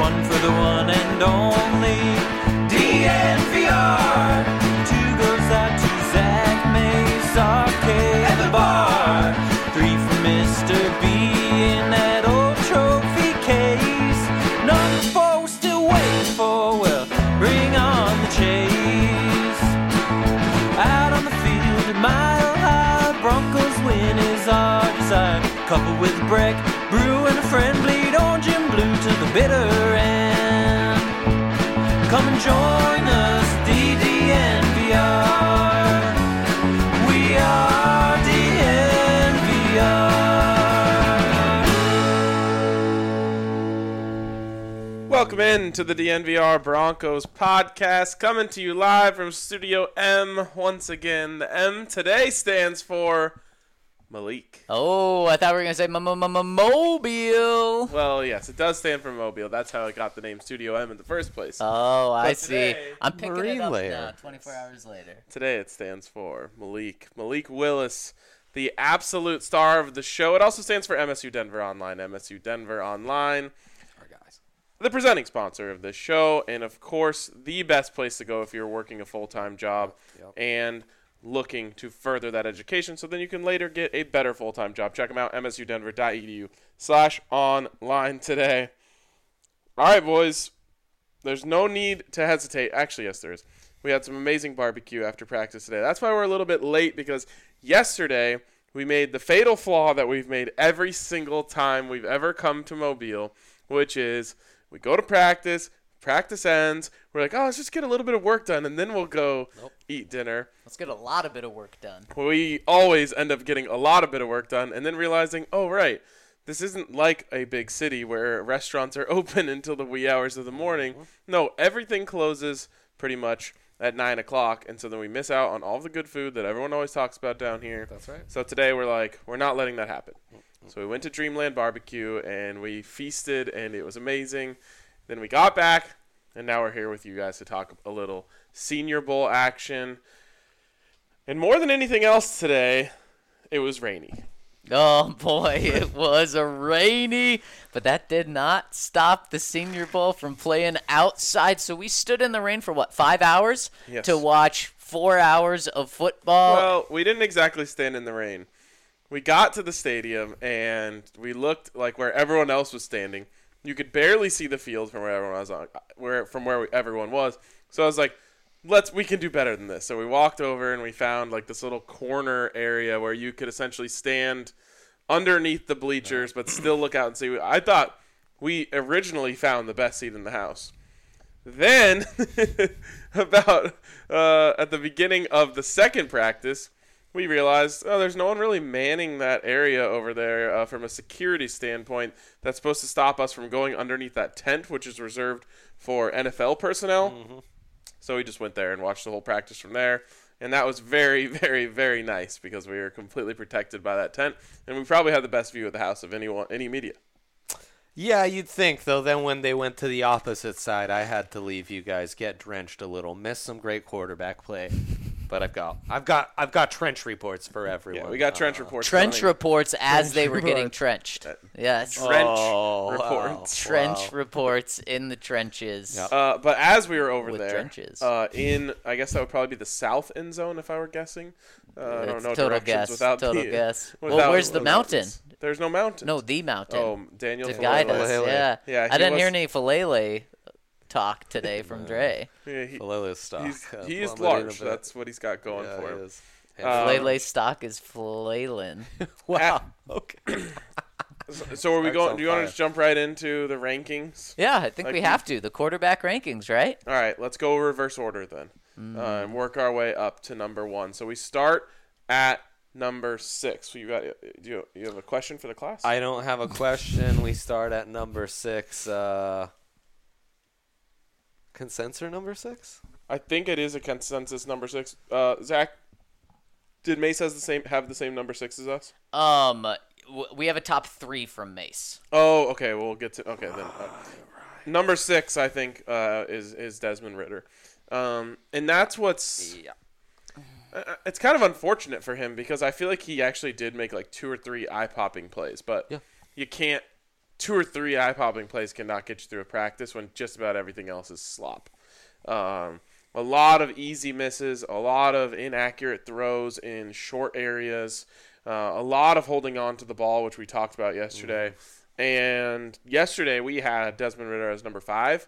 one for the one and only DNVR. Two goes out to Zach Mace, RK at the bar. Three for Mr. B in that old trophy case. Number four we're still waiting for, well, bring on the chase. Out on the field at Mile High, Broncos win is our desire. Coupled with a break, brew and a friend, bleed orange and blue to the bitter end. Come and join us, DDNVR. We are DNVR. Welcome in to the DNVR Broncos podcast, coming to you live from Studio M. Once again, the M today stands for Malik. Oh, I thought we were going to say Mobile. Well, yes, it does stand for Mobile. That's how I got the name Studio M in the first place. Oh, I see. today, I'm picking Marine it up layer. now, 24 hours later. Today it stands for Malik. Malik Willis, the absolute star of the show. It also stands for MSU Denver Online. MSU Denver Online, the presenting sponsor of this show, and of course, the best place to go if you're working a full-time job and looking to further that education so then you can later get a better full-time job. Check them out, msudenver.edu/online today. All right, boys. There's no need to hesitate. Actually, yes, there is. We had some amazing barbecue after practice today. That's why we're a little bit late, because yesterday we made the fatal flaw that we've made every single time we've ever come to Mobile, which is we go to practice ends, we're like, oh, let's just get a little bit of work done, and then we'll go eat dinner. Let's get a lot of bit of work done. We always end up getting a lot of bit of work done and then realizing, oh, right, this isn't like a big city where restaurants are open until the wee hours of the morning. No, everything closes pretty much at 9 o'clock, and so then we miss out on all the good food that everyone always talks about down here. That's right. So today we're like, we're not letting that happen. So we went to Dreamland Barbecue, and we feasted, and it was amazing. Then we got back, and now we're here with you guys to talk a little Senior Bowl action. And more than anything else today, it was rainy. Oh, boy, it was a rainy, but that did not stop the Senior Bowl from playing outside. So we stood in the rain for, 5 hours? Yes. To watch 4 hours of football? Well, we didn't exactly stand in the rain. We got to the stadium, and we looked like where everyone else was standing. You could barely see the field from where everyone was everyone was. So I was like, we can do better than this. So we walked over and we found like this little corner area where you could essentially stand underneath the bleachers but still look out and see. I thought we originally found the best seat in the house. Then about at the beginning of the second practice, we realized, there's no one really manning that area over there from a security standpoint that's supposed to stop us from going underneath that tent, which is reserved for NFL personnel. Mm-hmm. So we just went there and watched the whole practice from there. And that was very, very, very nice because we were completely protected by that tent. And we probably had the best view of the house of any media. Yeah, you'd think, though. Then when they went to the opposite side, I had to leave you guys get drenched a little. Missed some great quarterback play. But I've got trench reports for everyone. Yeah, we got trench reports. Trench reports as they were getting trenched. Yes. Trench reports. Trench reports in the trenches. Yep. But as we were over With there, trenches. I guess that would probably be the south end zone if I were guessing. I don't know total directions guess. without Total the, guess. without- Well, where's the without mountain? this. There's no mountain. No, the mountain. Oh, Daniel to guide us. Falele. Yeah. Yeah, I didn't hear any Falele talk today from Dre. Yeah, Falele's stock. he is plummeted large. a bit. That's what he's got going for him. He is. Falele's stock is flailin'. Wow. Okay. So are we Starts going? on Do you want to fire. just jump right into the rankings? Yeah, I think Like we we- have to. The quarterback rankings, right? All right, let's go reverse order then, and work our way up to number 1. So we start at number 6. So you have a question for the class? I don't have a question. We start at number 6. Consensus number 6? I think it is a consensus number 6. Zach, did Mace have the same number 6 as us? We have a top 3 from Mace. Oh, okay. We'll get to then. Number 6, I think, is Desmond Ridder, and that's what's. Yeah. It's kind of unfortunate for him because I feel like he actually did make like 2 or 3 eye-popping plays, but Yeah. you can't 2 or 3 eye-popping plays cannot get you through a practice when just about everything else is slop. A lot of easy misses, a lot of inaccurate throws in short areas, a lot of holding on to the ball, which we talked about yesterday. And yesterday we had Desmond Ridder as number 5.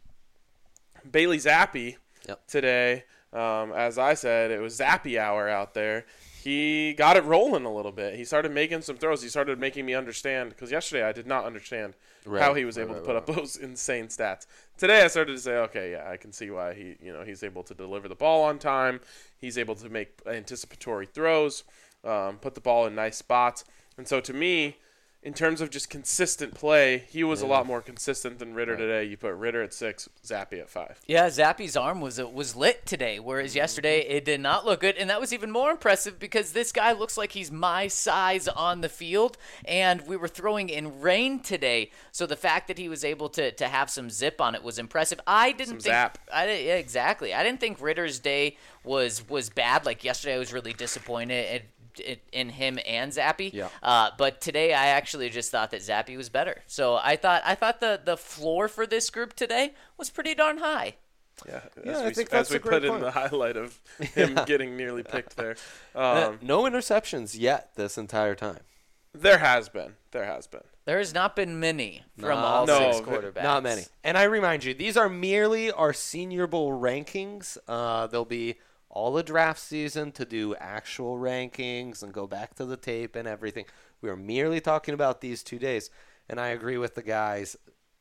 Bailey Zappi today, as I said, it was Zappi hour out there. He got it rolling a little bit. He started making some throws. He started making me understand, because yesterday I did not understand how he was able to put up those insane stats. Today I started to say, okay, yeah, I can see why he's able to deliver the ball on time. He's able to make anticipatory throws, put the ball in nice spots. And so to me, in terms of just consistent play, he was a lot more consistent than Ridder today. You put Ridder at 6, Zappi at 5. Yeah, Zappi's arm was lit today, whereas yesterday it did not look good. And that was even more impressive because this guy looks like he's my size on the field, and we were throwing in rain today. So the fact that he was able to have some zip on it was impressive. I didn't think zap. Yeah, exactly. I didn't think Ritter's day was bad. Like yesterday I was really disappointed in him and Zappi. Yeah. But today I actually just thought that Zappi was better. So I thought the floor for this group today was pretty darn high. Yeah, I think that's as we a great put in point. the highlight of him getting nearly picked there. No interceptions yet this entire time. There has been. There has not been many from No. all No, 6 quarterbacks. Not many. And I remind you, these are merely our Senior Bowl rankings. There'll be all the draft season to do actual rankings and go back to the tape and everything. We are merely talking about these 2 days. And I agree with the guys.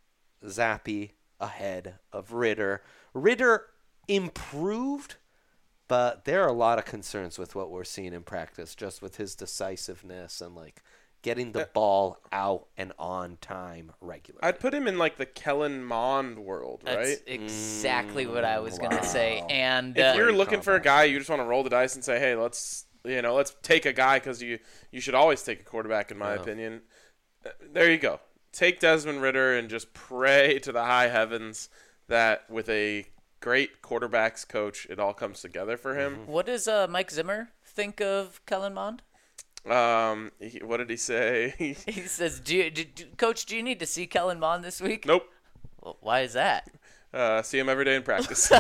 Zappi ahead of Ridder. Ridder improved, but there are a lot of concerns with what we're seeing in practice, just with his decisiveness and like getting the ball out and on time regularly. I'd put him in like the Kellen Mond world, right? That's exactly what I was going to say. And If you're looking for a guy, you just want to roll the dice and say, hey, let's take a guy, because you should always take a quarterback, in my opinion. There you go. Take Desmond Ridder and just pray to the high heavens that with a great quarterbacks coach, it all comes together for him. what does Mike Zimmer think of Kellen Mond? What did he say? He says, Coach, do you need to see Kellen Mond this week? Nope. Well, why is that? See him every day in practice.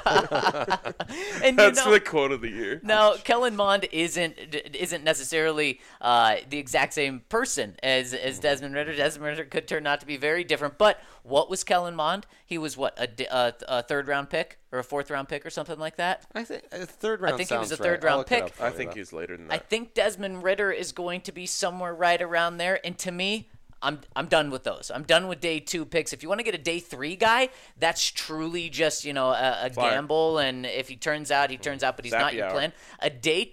And That's the quote of the year. Now, Kellen Mond isn't necessarily the exact same person as Desmond Ridder. Desmond Ridder could turn out to be very different. But what was Kellen Mond? He was what, a third-round pick or a fourth-round pick or something like that? I think a third round. I think he was sounds a right. third-round I'll look it pick. up for I you, think though. he's later than I that. think Desmond Ridder is going to be somewhere right around there. And to me, I'm done with those. I'm done with day 2 picks. If you want to get a day 3 guy, that's truly just, a gamble. And if he turns out, but he's not Zappy your hour. plan. A day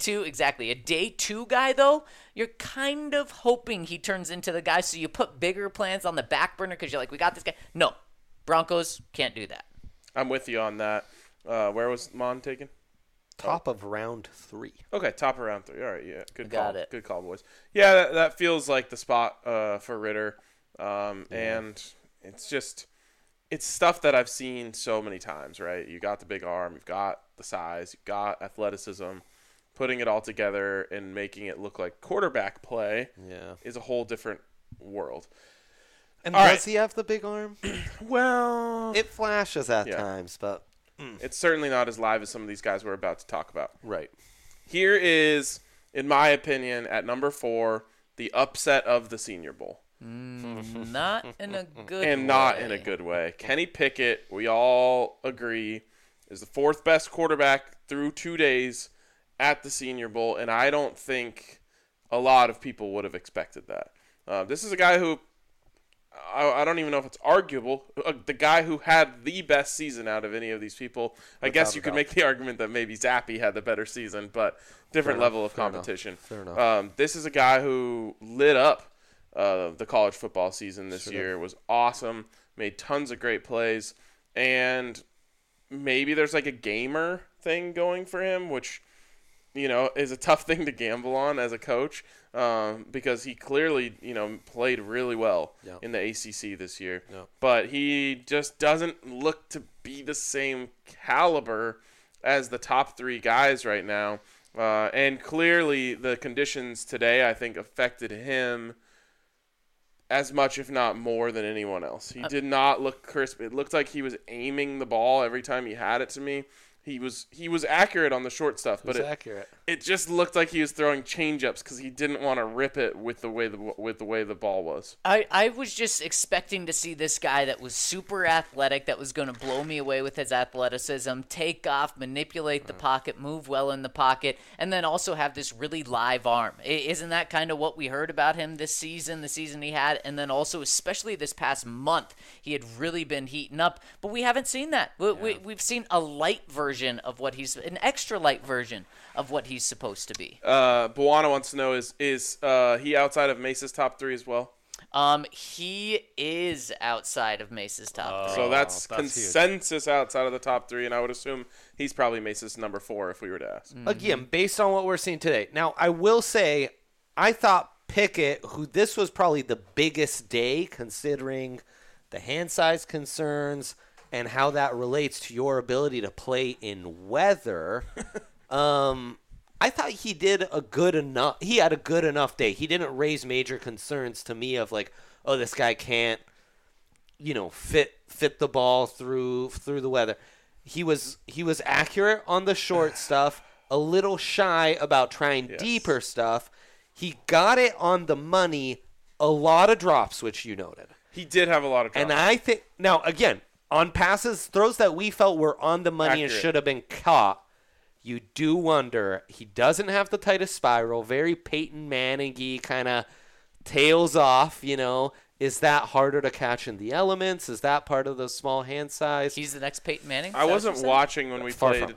2 guy, though, you're kind of hoping he turns into the guy. So you put bigger plans on the back burner because you're like, we got this guy. No, Broncos can't do that. I'm with you on that. Where was Mond taken? Top of round 3. Okay, top of round 3. All right, yeah, good Got call. it. Good call, boys. Yeah, that feels like the spot for Ridder, and it's stuff that I've seen so many times. Right, you got the big arm, you've got the size, you've got athleticism. Putting it all together and making it look like quarterback play is a whole different world. And All does right. he have the big arm? Well, It flashes at Yeah. times, but it's certainly not as live as some of these guys we're about to talk about. right. Here is, in my opinion, at number 4, the upset of the Senior Bowl. Not in a good And way. not in a good way. Kenny Pickett, we all agree, is the 4th best quarterback through 2 days at the Senior Bowl, and I don't think a lot of people would have expected that. This is a guy who, I don't even know if it's arguable, the guy who had the best season out of any of these people. I guess you could make the argument that maybe Zappi had the better season, but different level of competition. Fair enough. This is a guy who lit up the college football season this year. Was awesome, made tons of great plays, and maybe there's like a gamer thing going for him, which is a tough thing to gamble on as a coach, because he clearly played really well in the ACC this year, but he just doesn't look to be the same caliber as the top 3 guys right now. And clearly the conditions today, I think, affected him as much, if not more, than anyone else. He did not look crisp. It looked like he was aiming the ball every time he had it to me. He was accurate on the short stuff, but it just looked like he was throwing change-ups because he didn't want to rip it with the way the ball was. I was just expecting to see this guy that was super athletic, that was going to blow me away with his athleticism, take off, manipulate the pocket, move well in the pocket, and then also have this really live arm. Isn't that kind of what we heard about him this season, the season he had? And then also, especially this past month, he had really been heating up, but we haven't seen that. We've seen a light version of what he's, an extra light version of what he's supposed to be. Buwana wants to know, is he outside of Mace's top 3 as well? He is outside of Mace's top 3. So that's consensus huge. outside of the top 3, and I would assume he's probably Mace's number 4 if we were to ask. Again, based on what we're seeing today. Now, I will say, I thought Pickett, who this was probably the biggest day considering the hand size concerns and how that relates to your ability to play in weather. I thought he did a good enough. He had a good enough day. He didn't raise major concerns to me of like, oh, this guy can't, fit the ball through the weather. He was accurate on the short stuff, a little shy about trying deeper stuff. He got it on the money, a lot of drops, which you noted. He did have a lot of drops. And I think now again, on passes, throws that we felt were on the money and should have been caught, you do wonder, he doesn't have the tightest spiral, very Peyton Manning-y, kind of tails off, Is that harder to catch in the elements? Is that part of the small hand size? He's the next Peyton Manning? I wasn't watching when we played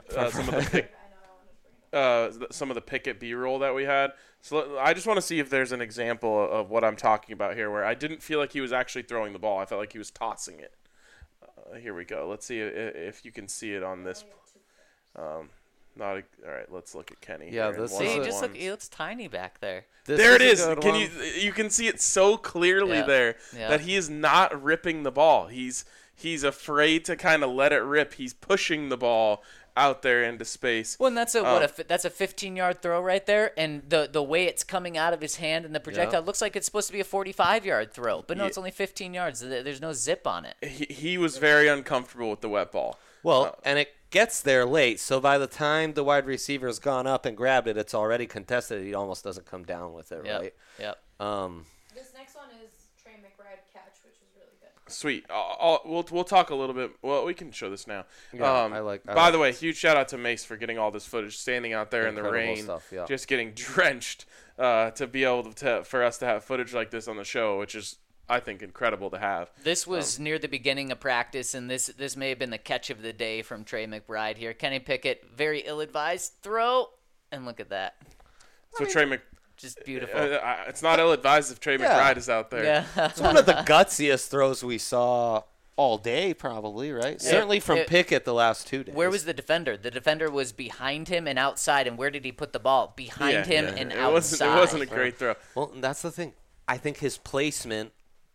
some of the Pickett B-roll that we had. So I just want to see if there's an example of what I'm talking about here where I didn't feel like he was actually throwing the ball. I felt like he was tossing it. Here we go. Let's see if you can see it on this. All right, let's look at Kenny. Yeah, here. He looks tiny back there. There it is. You can see it so clearly there that he is not ripping the ball. He's afraid to kind of let it rip. He's pushing the ball out there into space. Well, and that's a 15-yard throw right there, and the way it's coming out of his hand and the projectile looks like it's supposed to be a 45-yard throw, but no, it's only 15 yards. There's no zip on it. He was very uncomfortable with the wet ball. Well, and it gets there late, so by the time the wide receiver's gone up and grabbed it, it's already contested. He almost doesn't come down with it, right? Yep. This next one is Trey McBride catch, which is really good. Sweet. We'll talk a little bit. Well, we can show this now. Yeah, by the way, huge shout out to Mace for getting all this footage, standing out there in the rain, stuff, just getting drenched, to be able for us to have footage like this on the show, which is, I think, incredible to have. This was near the beginning of practice, and this may have been the catch of the day from Trey McBride here. Kenny Pickett, very ill-advised throw, and look at that. So Trey just beautiful. It's not ill-advised if Trey McBride is out there. Yeah. It's one of the gutsiest throws we saw all day, probably, right? Certainly from Pickett the last 2 days. Where was the defender? The defender was behind him and outside, and where did he put the ball? Behind him and outside. It wasn't a great throw. Well, that's the thing. I think his placement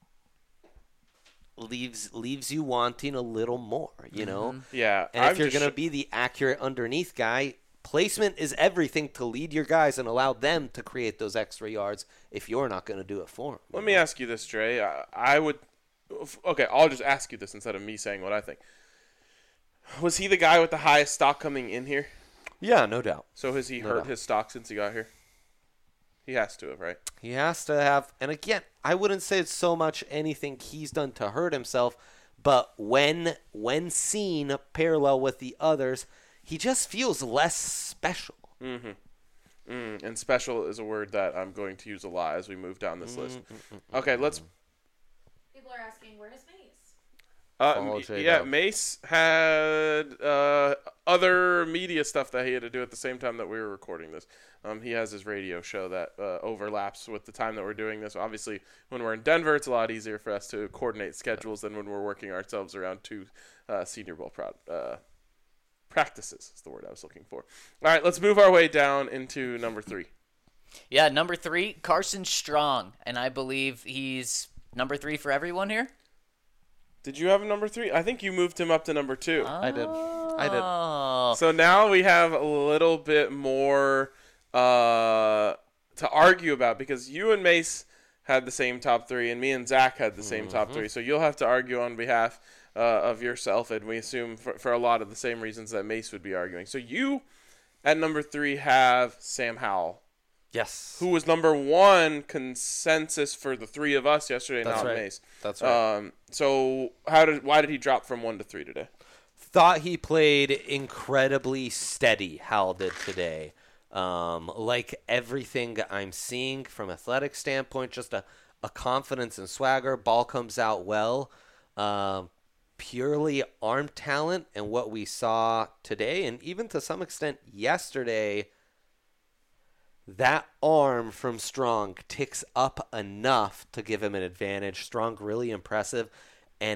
leaves you wanting a little more, Yeah. And if you're going to be the accurate underneath guy, placement is everything to lead your guys and allow them to create those extra yards if you're not going to do it for them. Let me ask you this, Trey. Okay, I'll just ask you this instead of me saying what I think. Was he the guy with the highest stock coming in here? Yeah, no doubt. So has he hurt his stock since he got here? He has to have, right? He has to have. And again, I wouldn't say it's so much anything he's done to hurt himself, but when seen parallel with the others, he just feels less special. Mm-hmm. And special is a word that I'm going to use a lot as we move down this list. Okay, let's... People are asking, where is Mace? Mace had other media stuff that he had to do at the same time that we were recording this. He has his radio show that overlaps with the time that we're doing this. Obviously, when we're in Denver, it's a lot easier for us to coordinate schedules than when we're working ourselves around two Senior Bowl practices is the word I was looking for. All right, let's move our way down into number 3. Yeah, number 3, Carson Strong, and I believe he's number 3 for everyone here. Did you have a number 3? I think you moved him up to number 2. I did. So now we have a little bit more to argue about because you and Mace had the same top 3, and me and Zach had the same top 3. So you'll have to argue on behalf of yourself, and we assume for a lot of the same reasons that Mace would be arguing. So you, at number 3, have Sam Howell, Yes. who was number 1 consensus for the 3 of us yesterday, That's not right. Mace. That's right. So why did he drop from 1 to 3 today? Thought he played incredibly steady, Hal did today. Like everything I'm seeing from athletic standpoint, just a confidence and swagger. Ball comes out well. Purely arm talent, and what we saw today, and even to some extent yesterday, that arm from Strong ticks up enough to give him an advantage. Strong really impressive, and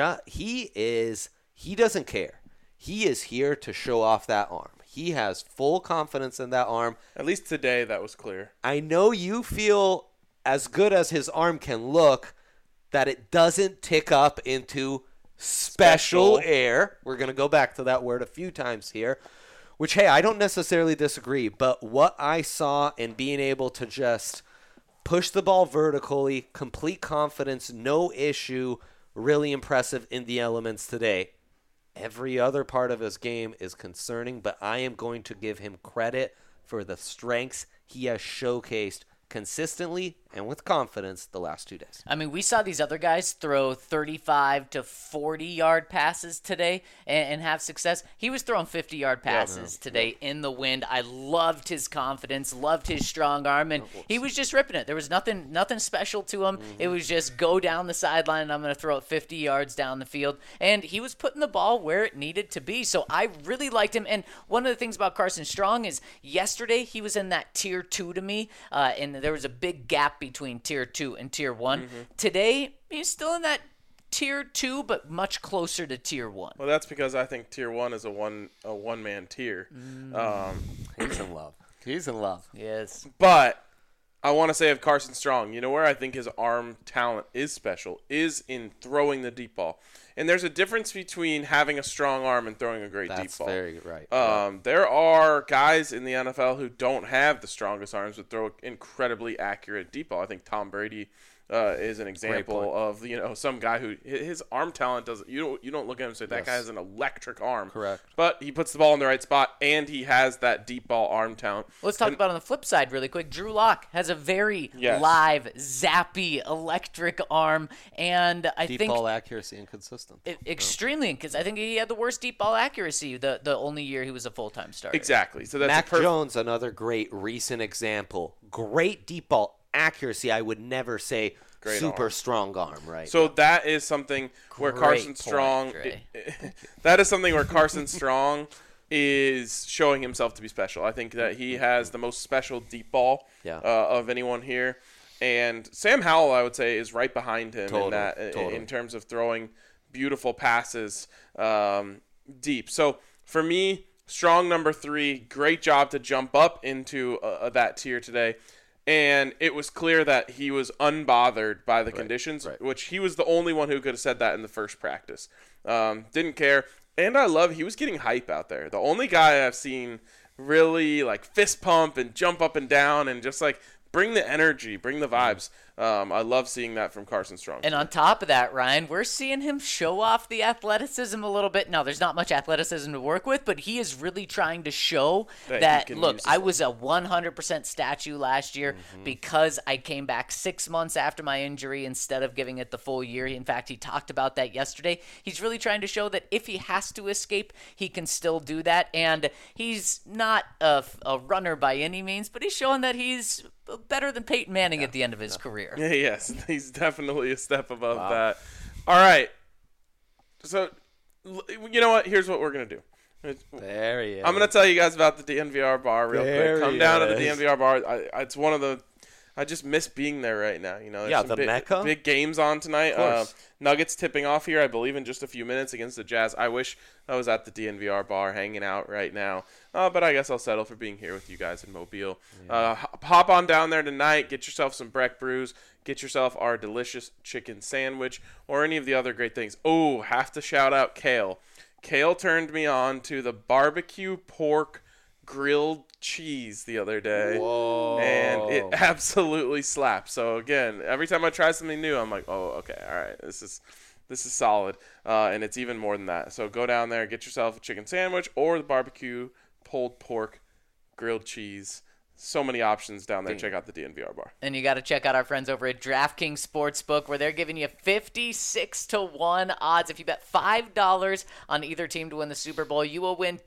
he doesn't care. He is here to show off that arm. He has full confidence in that arm. At least today, that was clear. I know you feel as good as his arm can look that it doesn't tick up into special air. We're going to go back to that word a few times here, which, hey, I don't necessarily disagree, but what I saw in being able to just push the ball vertically, complete confidence, no issue, really impressive in the elements today. Every other part of his game is concerning, but I am going to give him credit for the strengths he has showcased consistently and with confidence the last 2 days. I mean, we saw these other guys throw 35 to 40-yard passes today and have success. He was throwing 50-yard passes today in the wind. I loved his confidence, loved his strong arm, and he was just ripping it. There was nothing special to him. It was just go down the sideline, and I'm going to throw it 50 yards down the field. And he was putting the ball where it needed to be. So I really liked him. And one of the things about Carson Strong is yesterday he was in that tier 2 to me, and there was a big gap between tier 2 and tier 1. Today, he's still in that tier 2, but much closer to tier 1. Well, that's because I think tier 1 is a one-man tier. He's in love. He's in love. Yes. But I want to say of Carson Strong, you know where I think his arm talent is special is in throwing the deep ball. And there's a difference between having a strong arm and throwing a great deep That's ball. very right. There are guys in the NFL who don't have the strongest arms but throw incredibly accurate deep ball. I think Tom Brady is an example of some guy who his arm talent doesn't. You don't look at him and say that guy has an electric arm. Correct. But he puts the ball in the right spot and he has that deep ball arm talent. Let's talk about on the flip side really quick. Drew Lock has a very live, zappy, electric arm, and I Deep think ball accuracy and consistent. extremely, because I think he had the worst deep ball accuracy the only year he was a full-time starter. Exactly. So that's Mac Jones, another great recent example. Great deep ball accuracy. I would never say Great super arm. strong arm, right? So that is something where Great Carson point, Strong. Dre. That is something where Carson Strong is showing himself to be special. I think that he has the most special deep ball of anyone here, and Sam Howell, I would say, is right behind him in terms of throwing beautiful passes deep. So for me, Strong number 3, great job to jump up into that tier today. And it was clear that he was unbothered by the conditions, which he was the only one who could have said that in the first practice. Didn't care. And he was getting hype out there. The only guy I've seen really like fist pump and jump up and down and just like bring the energy, bring the vibes. I love seeing that from Carson Strong. And on top of that, Ryan, we're seeing him show off the athleticism a little bit. Now, there's not much athleticism to work with, but he is really trying to show that look, I was a 100% statue last year because I came back 6 months after my injury instead of giving it the full year. In fact, he talked about that yesterday. He's really trying to show that if he has to escape, he can still do that. And he's not a runner by any means, but he's showing that he's better than Peyton Manning at the end of his career. Yeah, yes, he's definitely a step above that. All right. So, you know what? Here's what we're going to do. There he is. I'm going to tell you guys about the DNVR bar real quick. Come down to the DNVR bar. It's one of the I just miss being there right now. You know, there's some the Mecca. big games on tonight. Nuggets tipping off here, I believe, in just a few minutes against the Jazz. I wish I was at the DNVR bar hanging out right now, but I guess I'll settle for being here with you guys in Mobile. Hop on down there tonight. Get yourself some Breck Brews. Get yourself our delicious chicken sandwich or any of the other great things. Oh, have to shout out Kale. Kale turned me on to the barbecue pork grilled cheese the other day. Whoa. And it absolutely slaps. So again, every time I try something new, I'm like, oh, okay, all right, this is solid. And it's even more than that. So go down there, get yourself a chicken sandwich or the barbecue pulled pork grilled cheese. So many options down there. Check out the DNVR bar. And you got to check out our friends over at DraftKings Sportsbook, where they're giving you 56-1 odds. If you bet $5 on either team to win the Super Bowl, you will win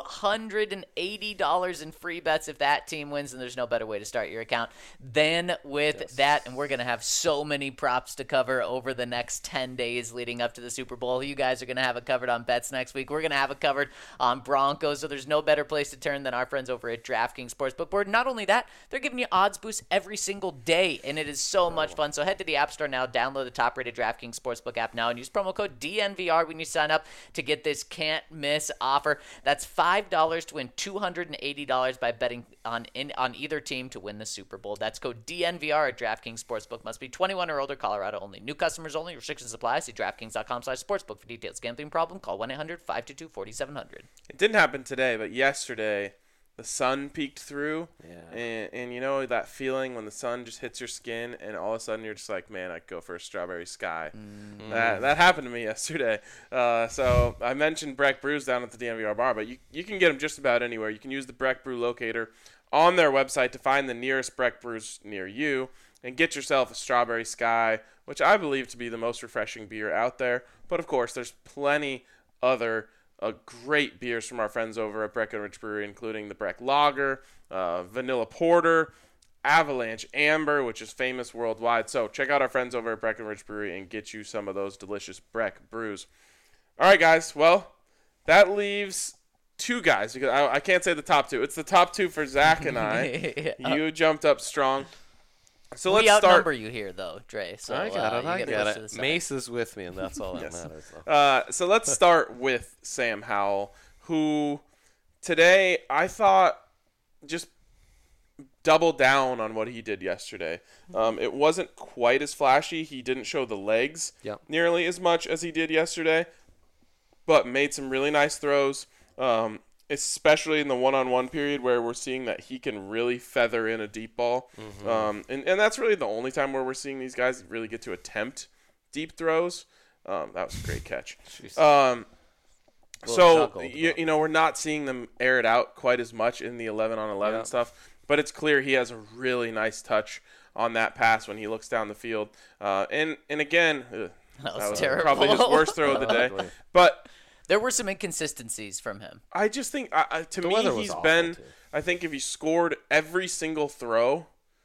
$280 in free bets if that team wins, and there's no better way to start your account than with that. And we're going to have so many props to cover over the next 10 days leading up to the Super Bowl. You guys are going to have it covered on bets next week. We're going to have it covered on Broncos, so there's no better place to turn than our friends over at DraftKings Sportsbook. Board. Not only that, they're giving you odds boosts every single day, and it is so much fun. So head to the App Store now, download the top-rated DraftKings Sportsbook app now, and use promo code DNVR when you sign up to get this can't-miss offer. That's $5 to win $280 by betting on either team to win the Super Bowl. That's code DNVR at DraftKings Sportsbook. Must be 21 or older, Colorado only. New customers only. Restrictions apply. See DraftKings.com/sportsbook for details. Gambling problem? Call 1-800-522-4700. It didn't happen today, but yesterday the sun peeked through, Yeah. and you know that feeling when the sun just hits your skin, and all of a sudden you're just like, man, I could go for a strawberry sky. That happened to me yesterday. So I mentioned Breck Brews down at the DNVR bar, but you can get them just about anywhere. You can use the Breck Brew locator on their website to find the nearest Breck Brews near you and get yourself a strawberry sky, which I believe to be the most refreshing beer out there. But of course, there's plenty other great beers from our friends over at Breckenridge Brewery, including the Breck Lager, Vanilla Porter, Avalanche Amber, which is famous worldwide. So check out our friends over at Breckenridge Brewery and get you some of those delicious Breck brews. All right, guys. Well, that leaves two guys, because I can't say the top two. It's the top two for Zach and I. You jumped up strong. So We let's start. outnumber you here, though, Dre. So I got it. you I get got pushed to the it. side. Mace is with me, and that's all that Yes. matters. So let's start with Sam Howell, who today I thought just doubled down on what he did yesterday. It wasn't quite as flashy. He didn't show the legs Yep. nearly as much as he did yesterday, but made some really nice throws, especially in the one-on-one period where we're seeing that he can really feather in a deep ball. And that's really the only time where we're seeing these guys really get to attempt deep throws. That was a great catch. So, juggled, you know, we're not seeing them air it out quite as much in the 11-on-11 stuff, but it's clear he has a really nice touch on that pass when he looks down the field. And again, That was terrible. probably his worst throw of the day. But There were some inconsistencies from him. I just think, to The me, weather was he's awful, been, too. I think if he scored every single throw,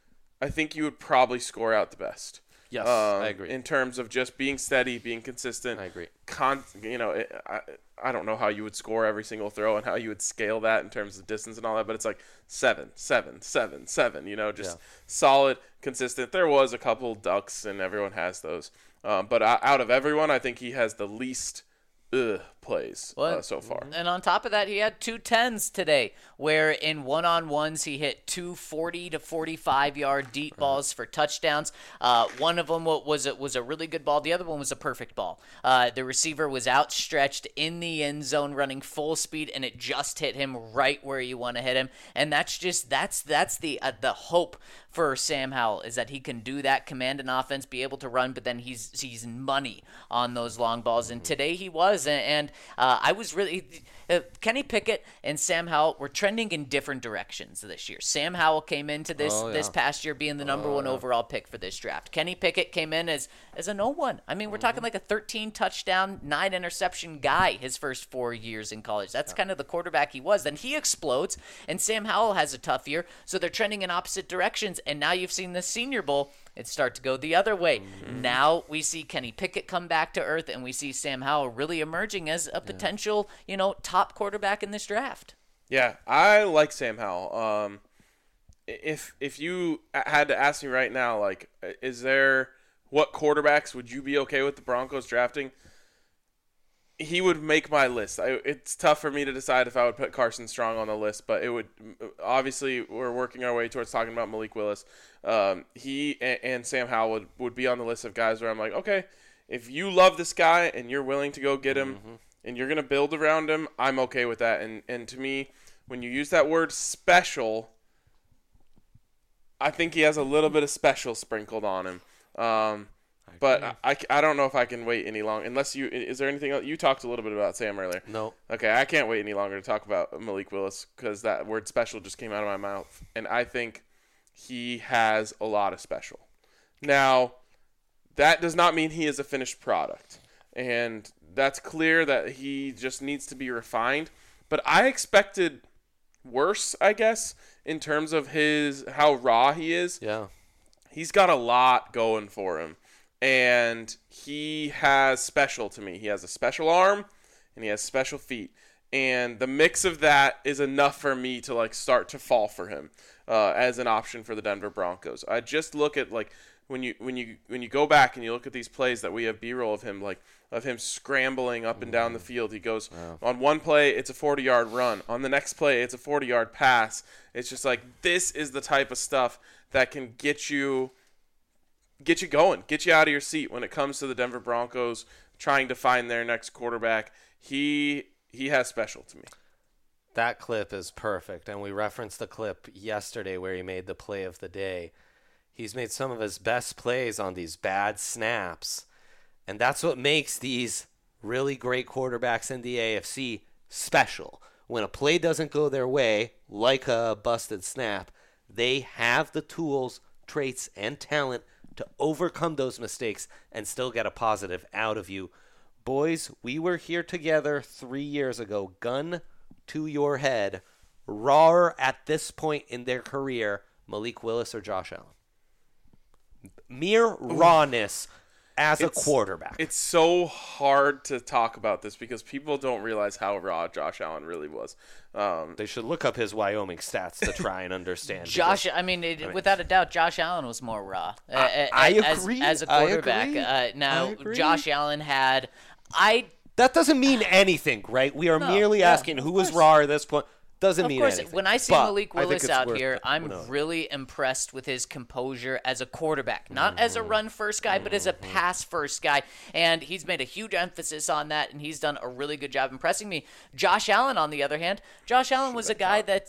I think you would probably score out the best. Yes, I agree. In terms of just being steady, being consistent. I agree. I don't know how you would score every single throw and how you would scale that in terms of distance and all that, but it's like 7, 7, 7, 7, just solid, consistent. There was a couple ducks, and everyone has those. But out of everyone, I think he has the least plays so far. And on top of that, he had 2 10s today, where in one-on-ones he hit 2 40 to 45-yard deep balls for touchdowns. One of them was a really good ball. The other one was a perfect ball. The receiver was outstretched in the end zone running full speed, and it just hit him right where you want to hit him. And that's the hope for Sam Howell, is that he can do that, command an offense, be able to run, but then he's money on those long balls. And today he was, and I was really Kenny Pickett and Sam Howell were trending in different directions this year. Sam Howell came into this past year being the number one overall pick for this draft. Kenny Pickett came in as a no one. I mean, we're talking like a 13 touchdown, 9 interception guy his first 4 years in college. That's kind of the quarterback he was. Then he explodes, and Sam Howell has a tough year, so they're trending in opposite directions. And now you've seen the Senior Bowl, it start to go the other way. Now we see Kenny Pickett come back to earth, and we see Sam Howell really emerging as a potential, top quarterback in this draft. Yeah, I like Sam Howell. If you had to ask me right now, like, what quarterbacks would you be okay with the Broncos drafting? He would make my list. It's tough for me to decide if I would put Carson Strong on the list, but it would. Obviously, we're working our way towards talking about Malik Willis. He and Sam Howell would be on the list of guys where I'm like, okay, if you love this guy and you're willing to go get him and you're going to build around him, I'm okay with that. And to me, when you use that word special, I think he has a little bit of special sprinkled on him. But I don't know if I can wait any longer. Unless is there anything else? You talked a little bit about Sam earlier. No. Okay, I can't wait any longer to talk about Malik Willis because that word special just came out of my mouth. And I think he has a lot of special. Now, that does not mean he is a finished product. And that's clear that he just needs to be refined. But I expected worse, I guess, in terms of how raw he is. Yeah. He's got a lot going for him. And he has special to me. He has a special arm and he has special feet. And the mix of that is enough for me to like start to fall for him as an option for the Denver Broncos. I just look at like when you go back and you look at these plays that we have B-roll of him, like of him scrambling up and down the field. He goes on one play, it's a 40-yard run. On the next play, it's a 40-yard pass. It's just like this is the type of stuff that can get you going, get you out of your seat when it comes to the Denver Broncos trying to find their next quarterback. He has special to me. That clip is perfect, and we referenced the clip yesterday where he made the play of the day. He's made some of his best plays on these bad snaps, and that's what makes these really great quarterbacks in the AFC special. When a play doesn't go their way, like a busted snap, they have the tools, traits, and talent to overcome those mistakes and still get a positive out of you. Boys, we were here together 3 years ago. Gun to your head. Raw at this point in their career, Malik Willis or Josh Allen? Mere rawness as a quarterback. It's so hard to talk about this because people don't realize how raw Josh Allen really was. They should look up his Wyoming stats to try and understand. Without a doubt, Josh Allen was more raw. I agree. As a quarterback. Now, Josh Allen had... That doesn't mean anything, right? We are merely asking who was raw at this point. Doesn't mean anything. Of course, when I see Malik Willis out here, I'm really impressed with his composure as a quarterback. Not as a run-first guy, but as a pass-first guy. And he's made a huge emphasis on that, and he's done a really good job impressing me. Josh Allen, on the other hand, Josh Allen was a guy that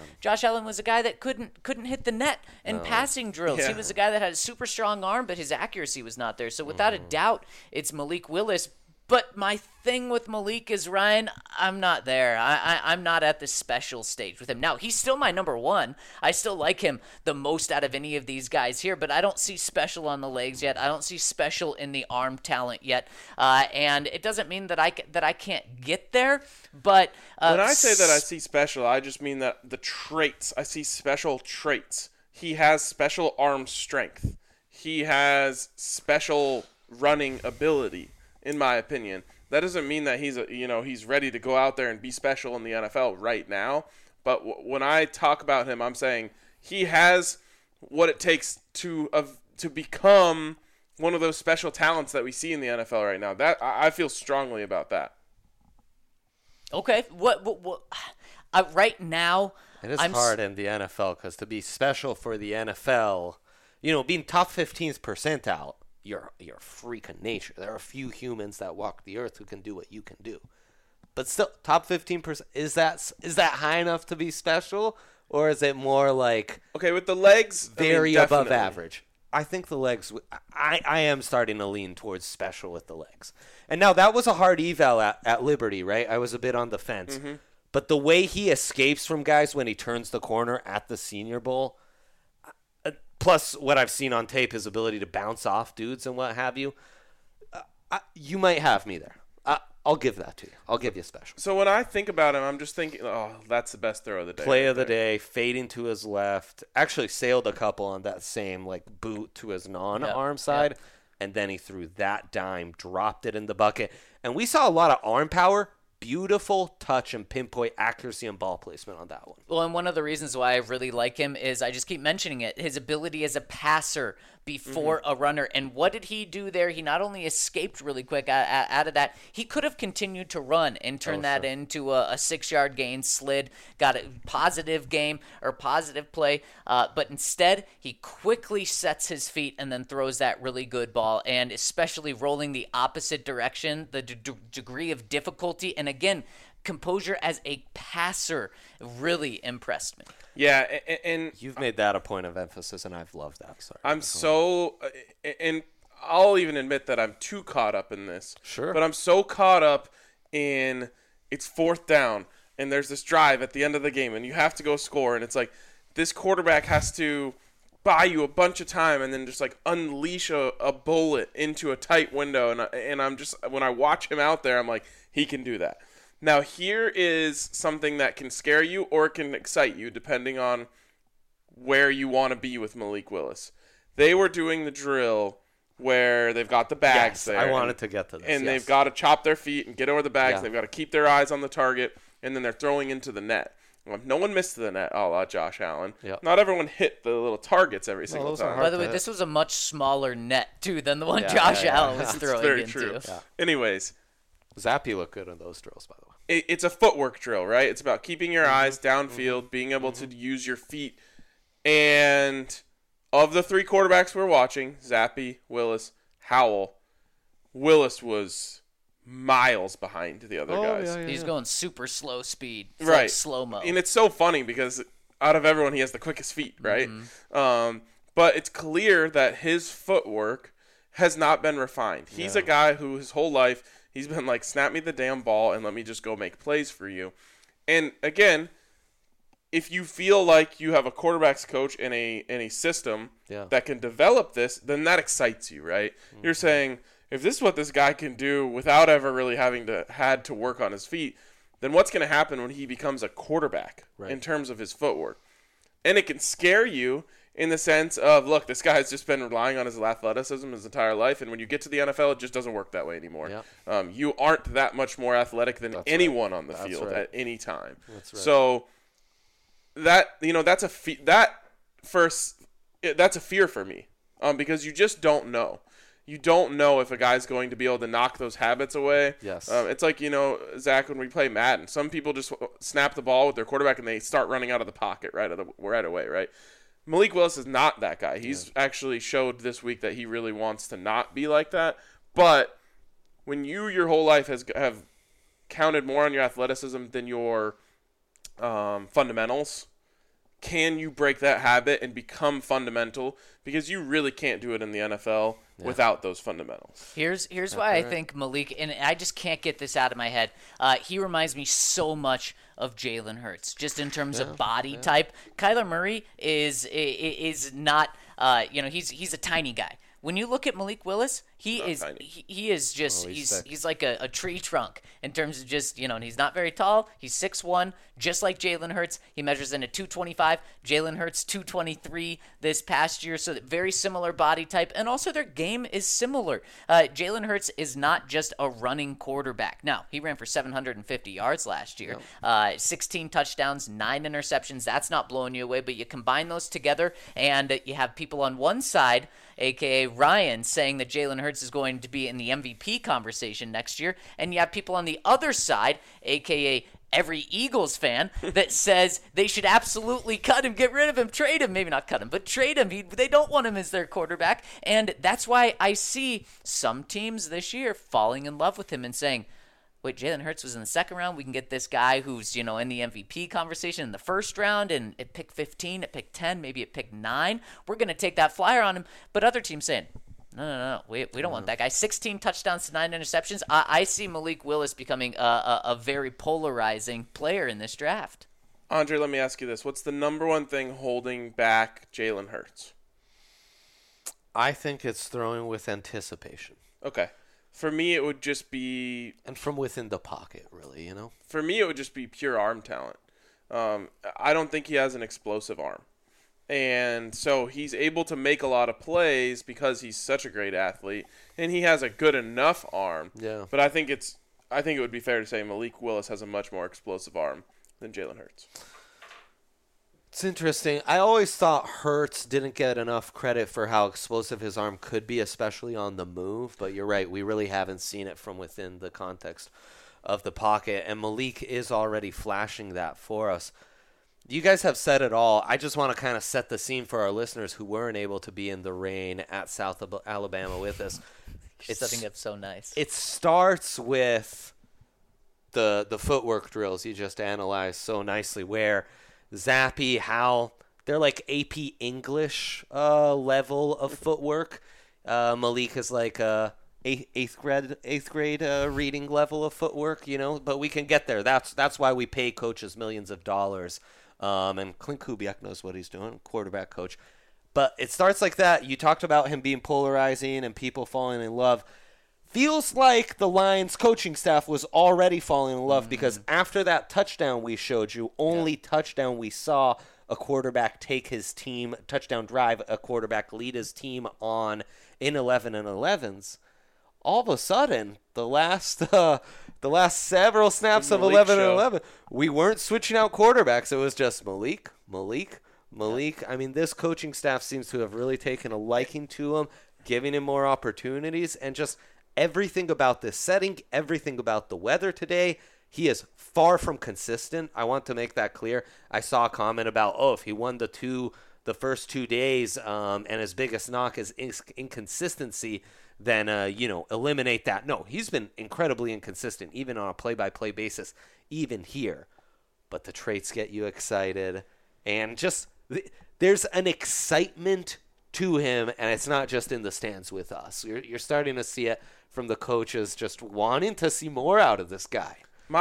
couldn't hit the net in passing drills. Yeah. He was a guy that had a super strong arm, but his accuracy was not there. So without a doubt, it's Malik Willis. But my thing with Malik is, Ryan, I'm not there. I'm not at the special stage with him. Now, he's still my number one. I still like him the most out of any of these guys here, but I don't see special on the legs yet. I don't see special in the arm talent yet. And it doesn't mean that I can't get there, but... when I say that I see special, I just mean that the traits. I see special traits. He has special arm strength. He has special running ability. In my opinion, that doesn't mean that he's ready to go out there and be special in the NFL right now. But when I talk about him, I'm saying he has what it takes to become one of those special talents that we see in the NFL right now. That I feel strongly about that. Okay, what right now? It is hard in the NFL because to be special for the NFL, being top 15th percentile. You're a freak of nature. There are a few humans that walk the earth who can do what you can do. But still, top 15%, is that high enough to be special? Or is it more like... Okay, with the legs, very above average? I think the legs... I am starting to lean towards special with the legs. And now, that was a hard eval at Liberty, right? I was a bit on the fence. Mm-hmm. But the way he escapes from guys when he turns the corner at the Senior Bowl... Plus, what I've seen on tape, his ability to bounce off dudes and what have you. You might have me there. I'll give that to you. I'll give you a special. So when I think about him, I'm just thinking, that's the best throw of the day. Play of the day, fading to his left. Actually sailed a couple on that same boot to his non-arm side. And then he threw that dime, dropped it in the bucket. And we saw a lot of arm power. Beautiful touch and pinpoint accuracy and ball placement on that one. Well, and one of the reasons why I really like him is I just keep mentioning it, his ability as a passer before a runner. And what did he do there? He not only escaped really quick out of that, he could have continued to run and turn that into a 6-yard gain, slid, got a positive game or positive play. But instead, he quickly sets his feet and then throws that really good ball. And especially rolling the opposite direction, the degree of difficulty. And again, composure as a passer really impressed me. Yeah, and You've made that a point of emphasis, and I've loved that. Sorry. I'm so, and I'll even admit that I'm too caught up in this. Sure. But I'm so caught up in it's 4th down, and there's this drive at the end of the game, and you have to go score, and it's like this quarterback has to buy you a bunch of time and then just like unleash a bullet into a tight window, and I'm just, when I watch him out there, I'm like, he can do that. Now here is something that can scare you or it can excite you depending on where you want to be with Malik Willis. They were doing the drill where they've got the bags there. I wanted to get to this. And they've got to chop their feet and get over the bags. Yeah. They've got to keep their eyes on the target, and then they're throwing into the net. Well, no one missed the net, a la Josh Allen. Yep. Not everyone hit the little targets every single those are time. hard. By the way, to- this was a much smaller net, too, than the one Yeah, Josh yeah, Allen yeah. was It's throwing very into. true. Yeah. Anyways, Zappy looked good in those drills, by the way. it's a footwork drill, right? It's about keeping your eyes downfield, being able to use your feet. And of the 3 quarterbacks we're watching, Zappy, Willis, Howell, Willis was miles behind the other guys. He's going super slow speed. It's Right. like slow-mo. And it's so funny because out of everyone, he has the quickest feet, right? But it's clear that his footwork has not been refined. He's a guy who his whole life, he's been like, snap me the damn ball and let me just go make plays for you. And again, if you feel like you have a quarterback's coach in a system that can develop this, then that excites you, right? You're saying, if this is what this guy can do without ever really having had to work on his feet, then what's going to happen when he becomes a quarterback in terms of his footwork? And it can scare you in the sense of, look, this guy's just been relying on his athleticism his entire life, and when you get to the NFL, it just doesn't work that way anymore. You aren't that much more athletic than anyone on the field at any time. That's right. So that, that's a fear for me, because you just don't know. You don't know if a guy's going to be able to knock those habits away. Yes. It's like, Zach, when we play Madden, some people just snap the ball with their quarterback and they start running out of the pocket right away, right? Malik Willis is not that guy. He's actually showed this week that he really wants to not be like that. But when your whole life have counted more on your athleticism than your fundamentals, can you break that habit and become fundamental? Because you really can't do it in the NFL without those fundamentals. Here's why I think Malik, and I just can't get this out of my head. He reminds me so much of Jalen Hurts, just in terms of body type. Kyler Murray is not, he's a tiny guy. When you look at Malik Willis, he is just he's like a tree trunk in terms of just, and he's not very tall. He's 6'1", just like Jalen Hurts. He measures in at 225. Jalen Hurts 223 this past year, so very similar body type, and also their game is similar. Jalen Hurts is not just a running quarterback. Now, he ran for 750 yards last year, 16 touchdowns, 9 interceptions. That's not blowing you away, but you combine those together, and you have people on one side, a.k.a. Ryan, saying that Jalen Hurts is going to be in the MVP conversation next year, and you have people on the other side, a.k.a. every Eagles fan, that says they should absolutely cut him, get rid of him, trade him. Maybe not cut him, but trade him. They don't want him as their quarterback, and that's why I see some teams this year falling in love with him and saying, wait, Jalen Hurts was in the second round. We can get this guy who's, in the MVP conversation in the first round, and at pick 15, at pick 10, maybe at pick 9. We're going to take that flyer on him. But other teams saying, no. We don't want that guy. 16 touchdowns to 9 interceptions. I see Malik Willis becoming a very polarizing player in this draft. Andre, let me ask you this. What's the number one thing holding back Jalen Hurts? I think it's throwing with anticipation. Okay. For me, it would just be... And from within the pocket, really, For me, it would just be pure arm talent. I don't think he has an explosive arm. And so he's able to make a lot of plays because he's such a great athlete. And he has a good enough arm. Yeah. But I think it would be fair to say Malik Willis has a much more explosive arm than Jalen Hurts. It's interesting. I always thought Hurts didn't get enough credit for how explosive his arm could be, especially on the move. But you're right. We really haven't seen it from within the context of the pocket. And Malik is already flashing that for us. You guys have said it all. I just want to kind of set the scene for our listeners who weren't able to be in the rain at South Alabama with us. It's setting up so nice. It starts with the footwork drills you just analyzed so nicely, where Zappy, Howell, they're like AP English level of footwork. Malik is like eighth grade reading level of footwork, but we can get there. That's why we pay coaches millions of dollars. And Clint Kubiak knows what he's doing, quarterback coach. But it starts like that. You talked about him being polarizing and people falling in love. Feels like the Lions coaching staff was already falling in love because after that touchdown we showed you, only touchdown we saw a quarterback take his team, touchdown drive, a quarterback lead his team on in 11 and 11s. All of a sudden, the last several snaps of 11 and 11, we weren't switching out quarterbacks. It was just Malik. I mean, this coaching staff seems to have really taken a liking to him, giving him more opportunities, and just everything about this setting, everything about the weather today. He is far from consistent. I want to make that clear. I saw a comment about, if he won the first 2 days, and his biggest knock is inconsistency, then, eliminate that. No, he's been incredibly inconsistent, even on a play-by-play basis, even here. But the traits get you excited. And just, there's an excitement to him, and it's not just in the stands with us. You're starting to see it from the coaches just wanting to see more out of this guy.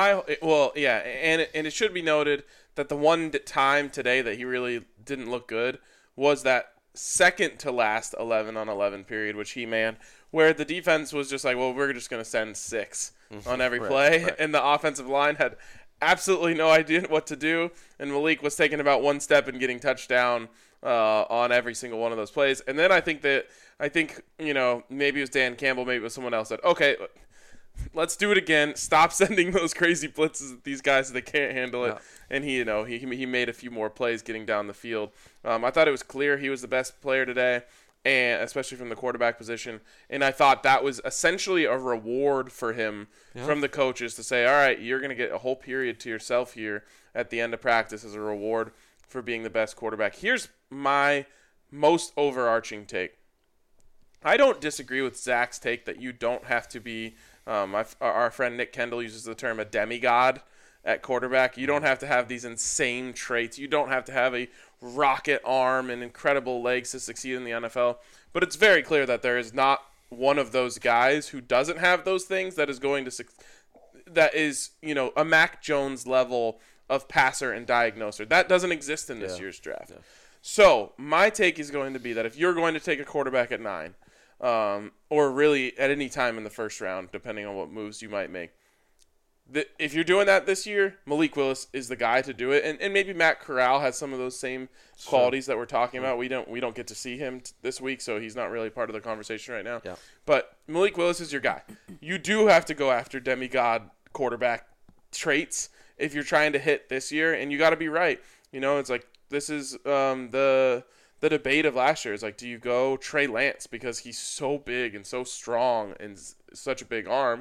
And it should be noted that the one time today that he really didn't look good was that second to last 11 on 11 period, which he manned, where the defense was just like, well, we're just going to send 6 on every play, right. And the offensive line had absolutely no idea what to do, and Malik was taking about one step and getting touchdown on every single one of those plays. And then I think maybe it was Dan Campbell, maybe it was someone else said, okay, let's do it again. Stop sending those crazy blitzes at these guys. They can't handle it. Yeah. And he made a few more plays getting down the field. I thought it was clear he was the best player today, and especially from the quarterback position. And I thought that was essentially a reward for him from the coaches to say, all right, you're going to get a whole period to yourself here at the end of practice as a reward for being the best quarterback. Here's my most overarching take. I don't disagree with Zach's take that you don't have to be our friend Nick Kendall uses the term a demigod at quarterback. You don't have to have these insane traits. You don't have to have a rocket arm and incredible legs to succeed in the NFL. But it's very clear that there is not one of those guys who doesn't have those things that is going to that is, a Mac Jones level of passer and diagnoser. That doesn't exist in this year's draft. Yeah. So my take is going to be that if you're going to take a quarterback at 9, or really at any time in the first round, depending on what moves you might make, if you're doing that this year, Malik Willis is the guy to do it. And maybe Matt Corral has some of those same qualities that we're talking about. We don't get to see him this week, so he's not really part of the conversation right now. Yeah. But Malik Willis is your guy. You do have to go after demigod quarterback traits if you're trying to hit this year, and you got to be right. It's like this is the debate of last year. Is like, do you go Trey Lance because he's so big and so strong and such a big arm?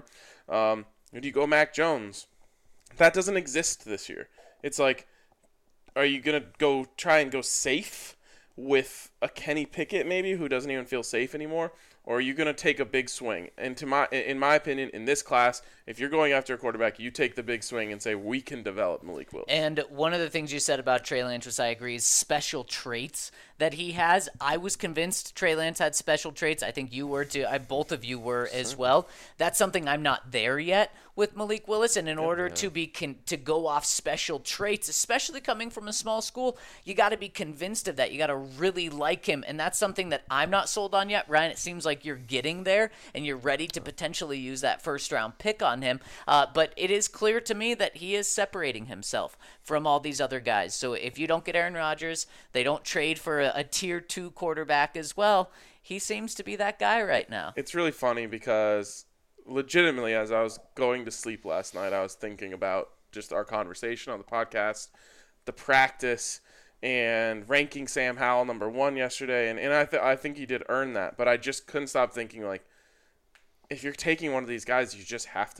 Or do you go Mac Jones? That doesn't exist this year. It's like, are you going to try and go safe with a Kenny Pickett maybe who doesn't even feel safe anymore? Or are you going to take a big swing? And in my opinion, in this class, if you're going after a quarterback, you take the big swing and say, we can develop Malik Willis. And one of the things you said about Trey Lance, which I agree, is special traits that he has. I was convinced Trey Lance had special traits. I think you were too. Both of you were as well. That's something I'm not there yet with Malik Willis. And in order to go off special traits, especially coming from a small school, you got to be convinced of that. You got to really like him. And that's something that I'm not sold on yet. Ryan, it seems like you're getting there and you're ready to potentially use that first-round pick on him. But it is clear to me that he is separating himself from all these other guys. So if you don't get Aaron Rodgers, they don't trade for a tier 2 quarterback as well. He seems to be that guy right now. It's really funny because legitimately, as I was going to sleep last night, I was thinking about just our conversation on the podcast, the practice, and ranking Sam Howell number 1 yesterday. And I think he did earn that. But I just couldn't stop thinking, like, if you're taking one of these guys, you just have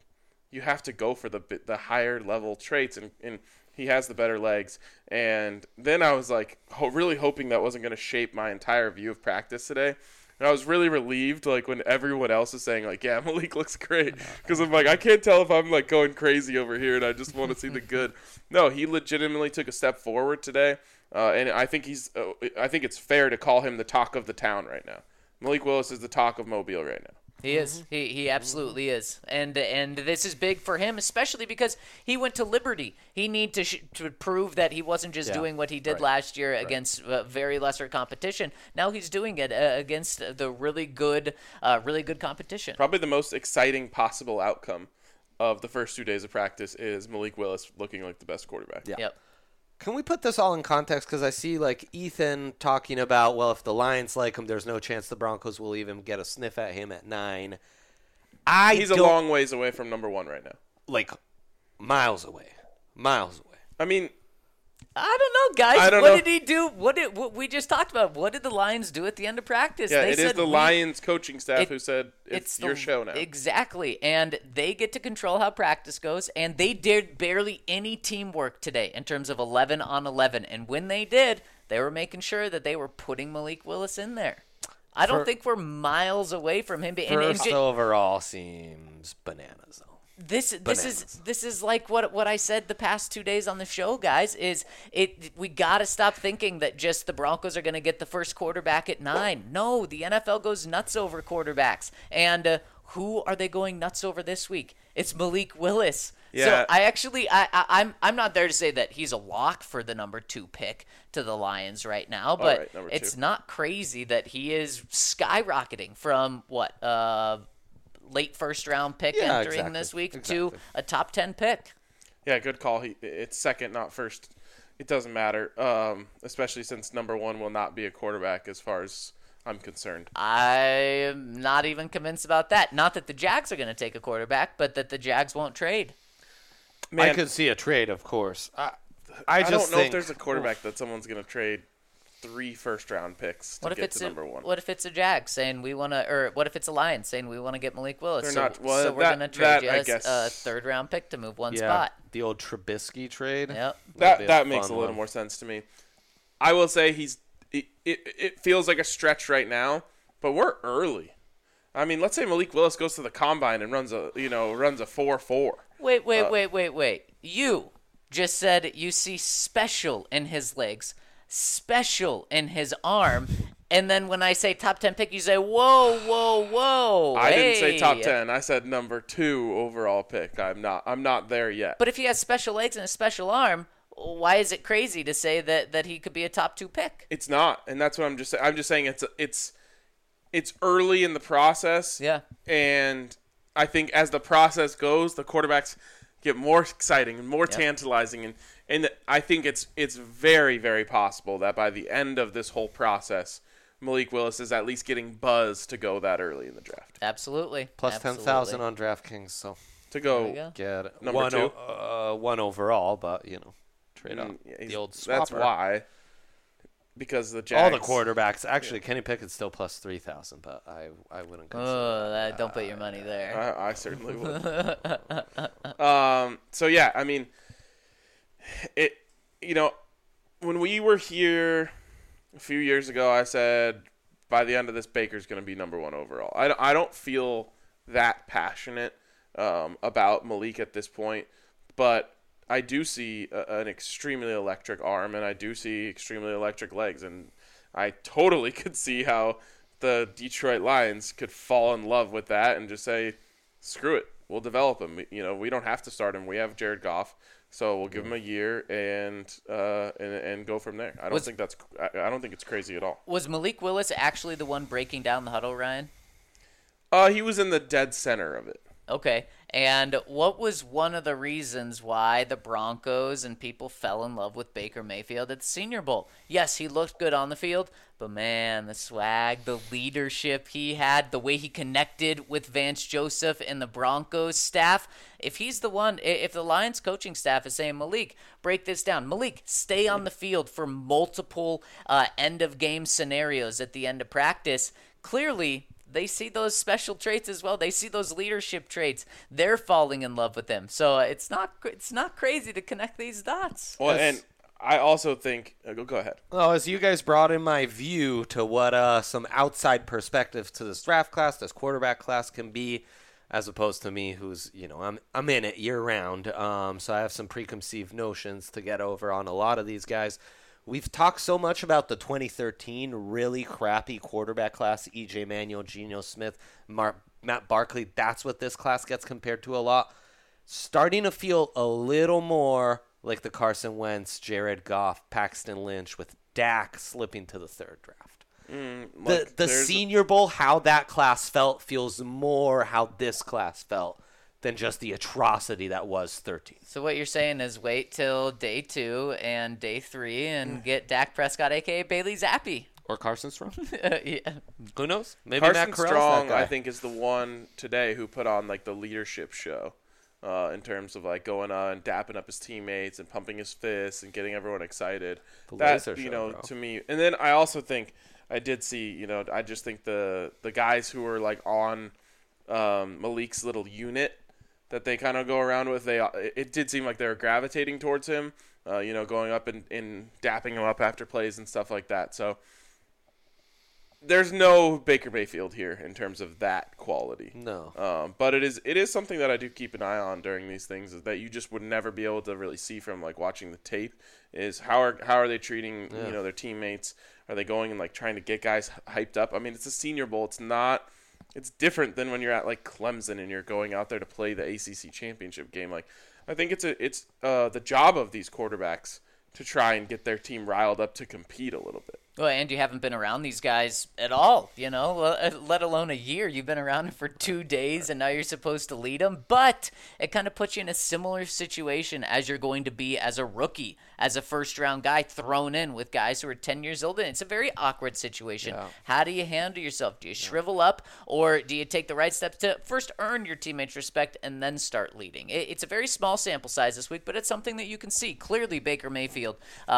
to go for the higher level traits, and he has the better legs. And then I was like really hoping that wasn't going to shape my entire view of practice today. And I was really relieved, like, when everyone else is saying, like, yeah, Malik looks great. Because I'm like, I can't tell if I'm, like, going crazy over here and I just want to see the good. No, he legitimately took a step forward today. And I think I think it's fair to call him the talk of the town right now. Malik Willis is the talk of Mobile right now. He is. He absolutely is. And this is big for him, especially because he went to Liberty. He needs to prove that he wasn't just doing what he did last year against very lesser competition. Now he's doing it against the really good competition. Probably the most exciting possible outcome of the first 2 days of practice is Malik Willis looking like the best quarterback. Yeah. Yep. Can we put this all in context? Because I see like Ethan talking about, well, if the Lions like him, there's no chance the Broncos will even get a sniff at him at 9. He's a long ways away from number 1 right now. Like miles away. I mean, I don't know, guys. I don't what know. did he do? What we just talked about? What did the Lions do at the end of practice? yeah, They it is said the Lions coaching staff who said it's your show now. Exactly. And they get to control how practice goes. And they did barely any teamwork today in terms of 11 on 11. And when they did, they were making sure that they were putting Malik Willis in there. I don't think we're miles away from him. First overall seems bananas, though. This is like what I said the past 2 days on the show, guys. We got to stop thinking that just the Broncos are going to get the first quarterback at 9. No, the NFL goes nuts over quarterbacks, and who are they going nuts over this week? It's Malik Willis. Yeah. So I'm not there to say that he's a lock for the number 2 pick to the Lions right now, but right, number it's 2. not crazy that he is skyrocketing from late first round pick entering this week to a top 10 pick. Yeah, good call. It's second, not first. It doesn't matter, especially since number 1 will not be a quarterback as far as I'm concerned. I'm not even convinced about that. Not that the Jags are going to take a quarterback, but that the Jags won't trade. Man, I could see a trade, of course. I just don't know think, if there's a quarterback that someone's going to trade 3 first-round picks to get to number 1. What if it's a Jag saying we want to, or what if it's a Lions saying we want to get Malik Willis? They're not. Well, so we're going to trade you I a guess. 3rd-round pick to move one spot. The old Trubisky trade. Yep. That makes a little more sense to me. I will say it feels like a stretch right now, but we're early. I mean, let's say Malik Willis goes to the combine and runs a 4.4. Wait. You just said you see special in his legs, special in his arm, and then when I say top 10 pick, you say, whoa. I didn't say top 10. I said number 2 overall pick. I'm not there yet. But if he has special legs and a special arm, why is it crazy to say that he could be a top 2 pick? It's not, and that's what I'm just saying. I'm just saying it's early in the process. Yeah. And I think as the process goes, the quarterbacks get more exciting and more tantalizing, and I think it's very, very possible that by the end of this whole process, Malik Willis is at least getting buzz to go that early in the draft. Absolutely. Plus 10,000 on DraftKings, so To go get number 2. 1 overall, but trade up the old swapper. That's why. Because the Jags. All the quarterbacks. Actually, Kenny Pickett's still plus 3,000, but I wouldn't consider Don't put your money there. I certainly would. So yeah, I mean, when we were here a few years ago, I said by the end of this, Baker's going to be number 1 overall. I don't feel that passionate about Malik at this point, but I do see an extremely electric arm, and I do see extremely electric legs, and I totally could see how the Detroit Lions could fall in love with that and just say, screw it, we'll develop him. We don't have to start him. We have Jared Goff, so we'll give him a year and go from there. I don't think it's crazy at all. Was Malik Willis actually the one breaking down the huddle, Ryan? He was in the dead center of it. Okay. And what was one of the reasons why the Broncos and people fell in love with Baker Mayfield at the Senior Bowl? Yes, he looked good on the field, but man, the swag, the leadership he had, the way he connected with Vance Joseph and the Broncos staff. If he's the one, if the Lions coaching staff is saying, Malik, break this down. Malik, stay on the field for multiple end-of-game scenarios at the end of practice. Clearly, they see those special traits as well. They see those leadership traits. They're falling in love with him. So it's not crazy to connect these dots. Well, and I also think go ahead. Well, as you guys brought in my view to what some outside perspective to this draft class, this quarterback class can be, as opposed to me, who's I'm in it year round. So I have some preconceived notions to get over on a lot of these guys. We've talked so much about the 2013 really crappy quarterback class, E.J. Manuel, Geno Smith, Matt Barkley. That's what this class gets compared to a lot. Starting to feel a little more like the Carson Wentz, Jared Goff, Paxton Lynch, with Dak slipping to the third draft. The Senior Bowl, how that class felt, feels more how this class felt than just the atrocity that was 13. So what you're saying is wait till day 2 and day 3 and get Dak Prescott, a.k.a. Bailey Zappi. Or Carson Strong. Yeah. Who knows? Maybe Carson Matt Corral's Strong, that guy. I think, is the one today who put on like the leadership show in terms of like going on and dapping up his teammates and pumping his fists and getting everyone excited. Laser show, bro. To me. And then I also think I did see, I just think the guys who were like on Malik's little unit that they kind of go around with, it did seem like they were gravitating towards him, going up and dapping him up after plays and stuff like that. So there's no Baker Mayfield here in terms of that quality. No. But it is something that I do keep an eye on during these things, is that you just would never be able to really see from like watching the tape, is how are they treating their teammates? Are they going and like trying to get guys hyped up? I mean, it's a Senior Bowl. It's different than when you're at like Clemson and you're going out there to play the ACC championship game. Like, I think it's the job of these quarterbacks to try and get their team riled up to compete a little bit. Well, and you haven't been around these guys at all, let alone a year. You've been around for 2 days, and now you're supposed to lead them. But it kind of puts you in a similar situation as you're going to be as a rookie, as a first-round guy thrown in with guys who are 10 years old. And it's a very awkward situation. Yeah. How do you handle yourself? Do you shrivel up, or do you take the right steps to first earn your teammates' respect and then start leading? It's a very small sample size this week, but it's something that you can see. Clearly, Baker Mayfield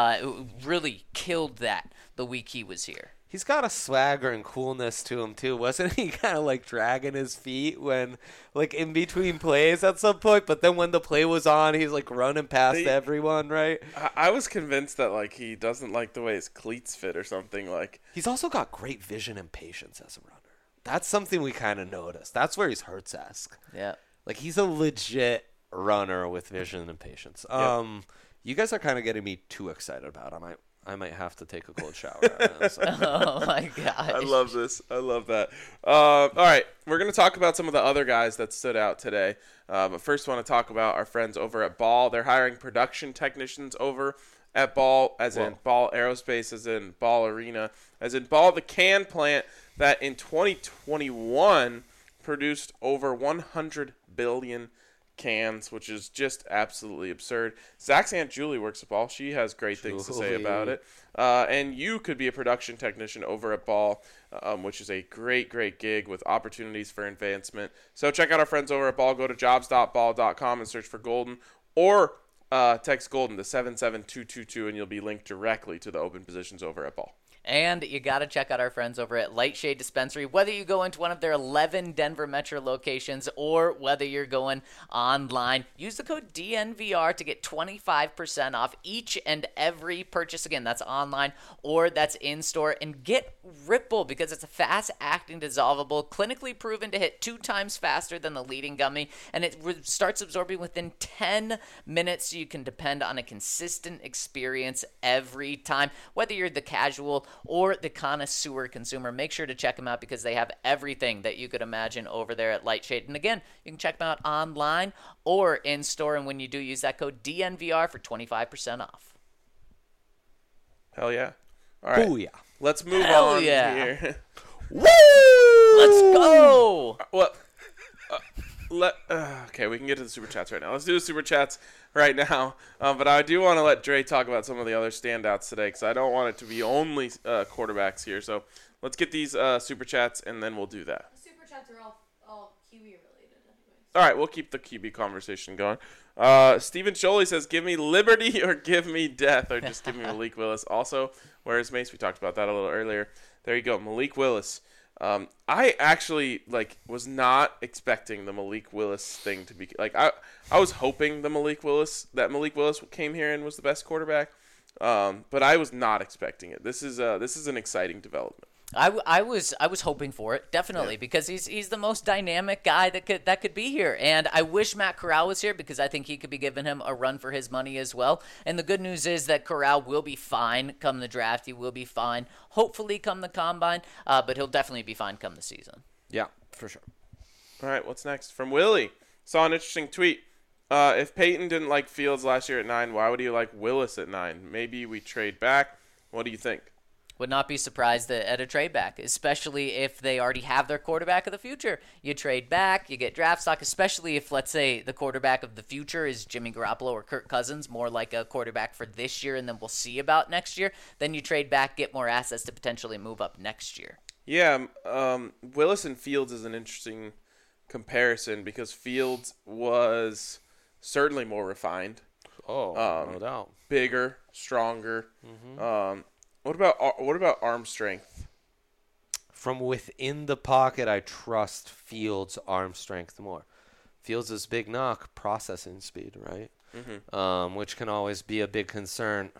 really killed that the week he was here. He's got a swagger and coolness to him, too. Wasn't he kind of like dragging his feet when, like, in between plays at some point? But then when the play was on, he's like running past everyone, right? I was convinced that like he doesn't like the way his cleats fit or something. Like, He's also got great vision and patience as a runner. That's something we kind of noticed. That's where he's Hurts-esque. Yeah. Like, he's a legit runner with vision and patience. You guys are kind of getting me too excited about him. I might have to take a cold shower. Oh, my gosh. I love this. I love that. All right, we're going to talk about some of the other guys that stood out today. But first, I want to talk about our friends over at Ball. They're hiring production technicians over at Ball, as in Ball Aerospace, as in Ball Arena, as in Ball, the can plant that in 2021 produced over 100 billion cans, which is just absolutely absurd. Zach's Aunt Julie works at Ball. She has great things to say about it. And you could be a production technician over at Ball, which is a great gig with opportunities for advancement. So check out our friends over at Ball. Go to jobs.ball.com and search for Golden, or text Golden to 77222 and you'll be linked directly to the open positions over at Ball. And you got to check out our friends over at Lightshade Dispensary. Whether you go into one of their 11 Denver Metro locations or whether you're going online, use the code DNVR to get 25% off each and every purchase. Again, that's online or that's in-store. And get Ripple, because it's a fast-acting dissolvable, clinically proven to hit 2 times faster than the leading gummy, and it starts absorbing within 10 minutes, so you can depend on a consistent experience every time. Whether you're the casual or the connoisseur consumer, make sure to check them out, because they have everything that you could imagine over there at Lightshade. And again, you can check them out online or in store, and when you do, use that code DNVR for 25% off. Hell yeah. All right. Oh, yeah. Let's move Hell on yeah. here. Woo! Let's go! Well, okay, we can get to the Super Chats right now. Let's do the Super Chats right now. But I do want to let Dre talk about some of the other standouts today, because I don't want it to be only quarterbacks here. So let's get these Super Chats, and then we'll do that. The super chats are all Kiwi related anyways. All right, we'll keep the QB conversation going. Stephen Sholey says, give me liberty or give me death, or just give me Malik Willis. Also, where's Mace? We talked about that a little earlier. There you go, Malik Willis. I actually was not expecting the Malik Willis thing to be I was hoping that Malik Willis came here and was the best quarterback. But I was not expecting it. This is an exciting development. I was hoping for it, definitely, because he's the most dynamic guy that could be here, and I wish Matt Corral was here because I think he could be giving him a run for his money as well. And the good news is that Corral will be fine come the draft. He will be fine, hopefully come the combine, but he'll definitely be fine come the season. Yeah, for sure. All right, what's next? From Willie. Saw an interesting tweet. If Peyton didn't like Fields last year at 9, why would he like Willis at 9? Maybe we trade back. What do you think? Would not be surprised at a trade back, especially if they already have their quarterback of the future. You trade back, you get draft stock, especially if, let's say, the quarterback of the future is Jimmy Garoppolo or Kirk Cousins, more like a quarterback for this year and then we'll see about next year. Then you trade back, get more assets to potentially move up next year. Yeah, Willis and Fields is an interesting comparison because Fields was certainly more refined. Oh, no doubt. Bigger, stronger. What about arm strength? From within the pocket, I trust Fields' arm strength more. Fields' big knock, processing speed, right? Which can always be a big concern.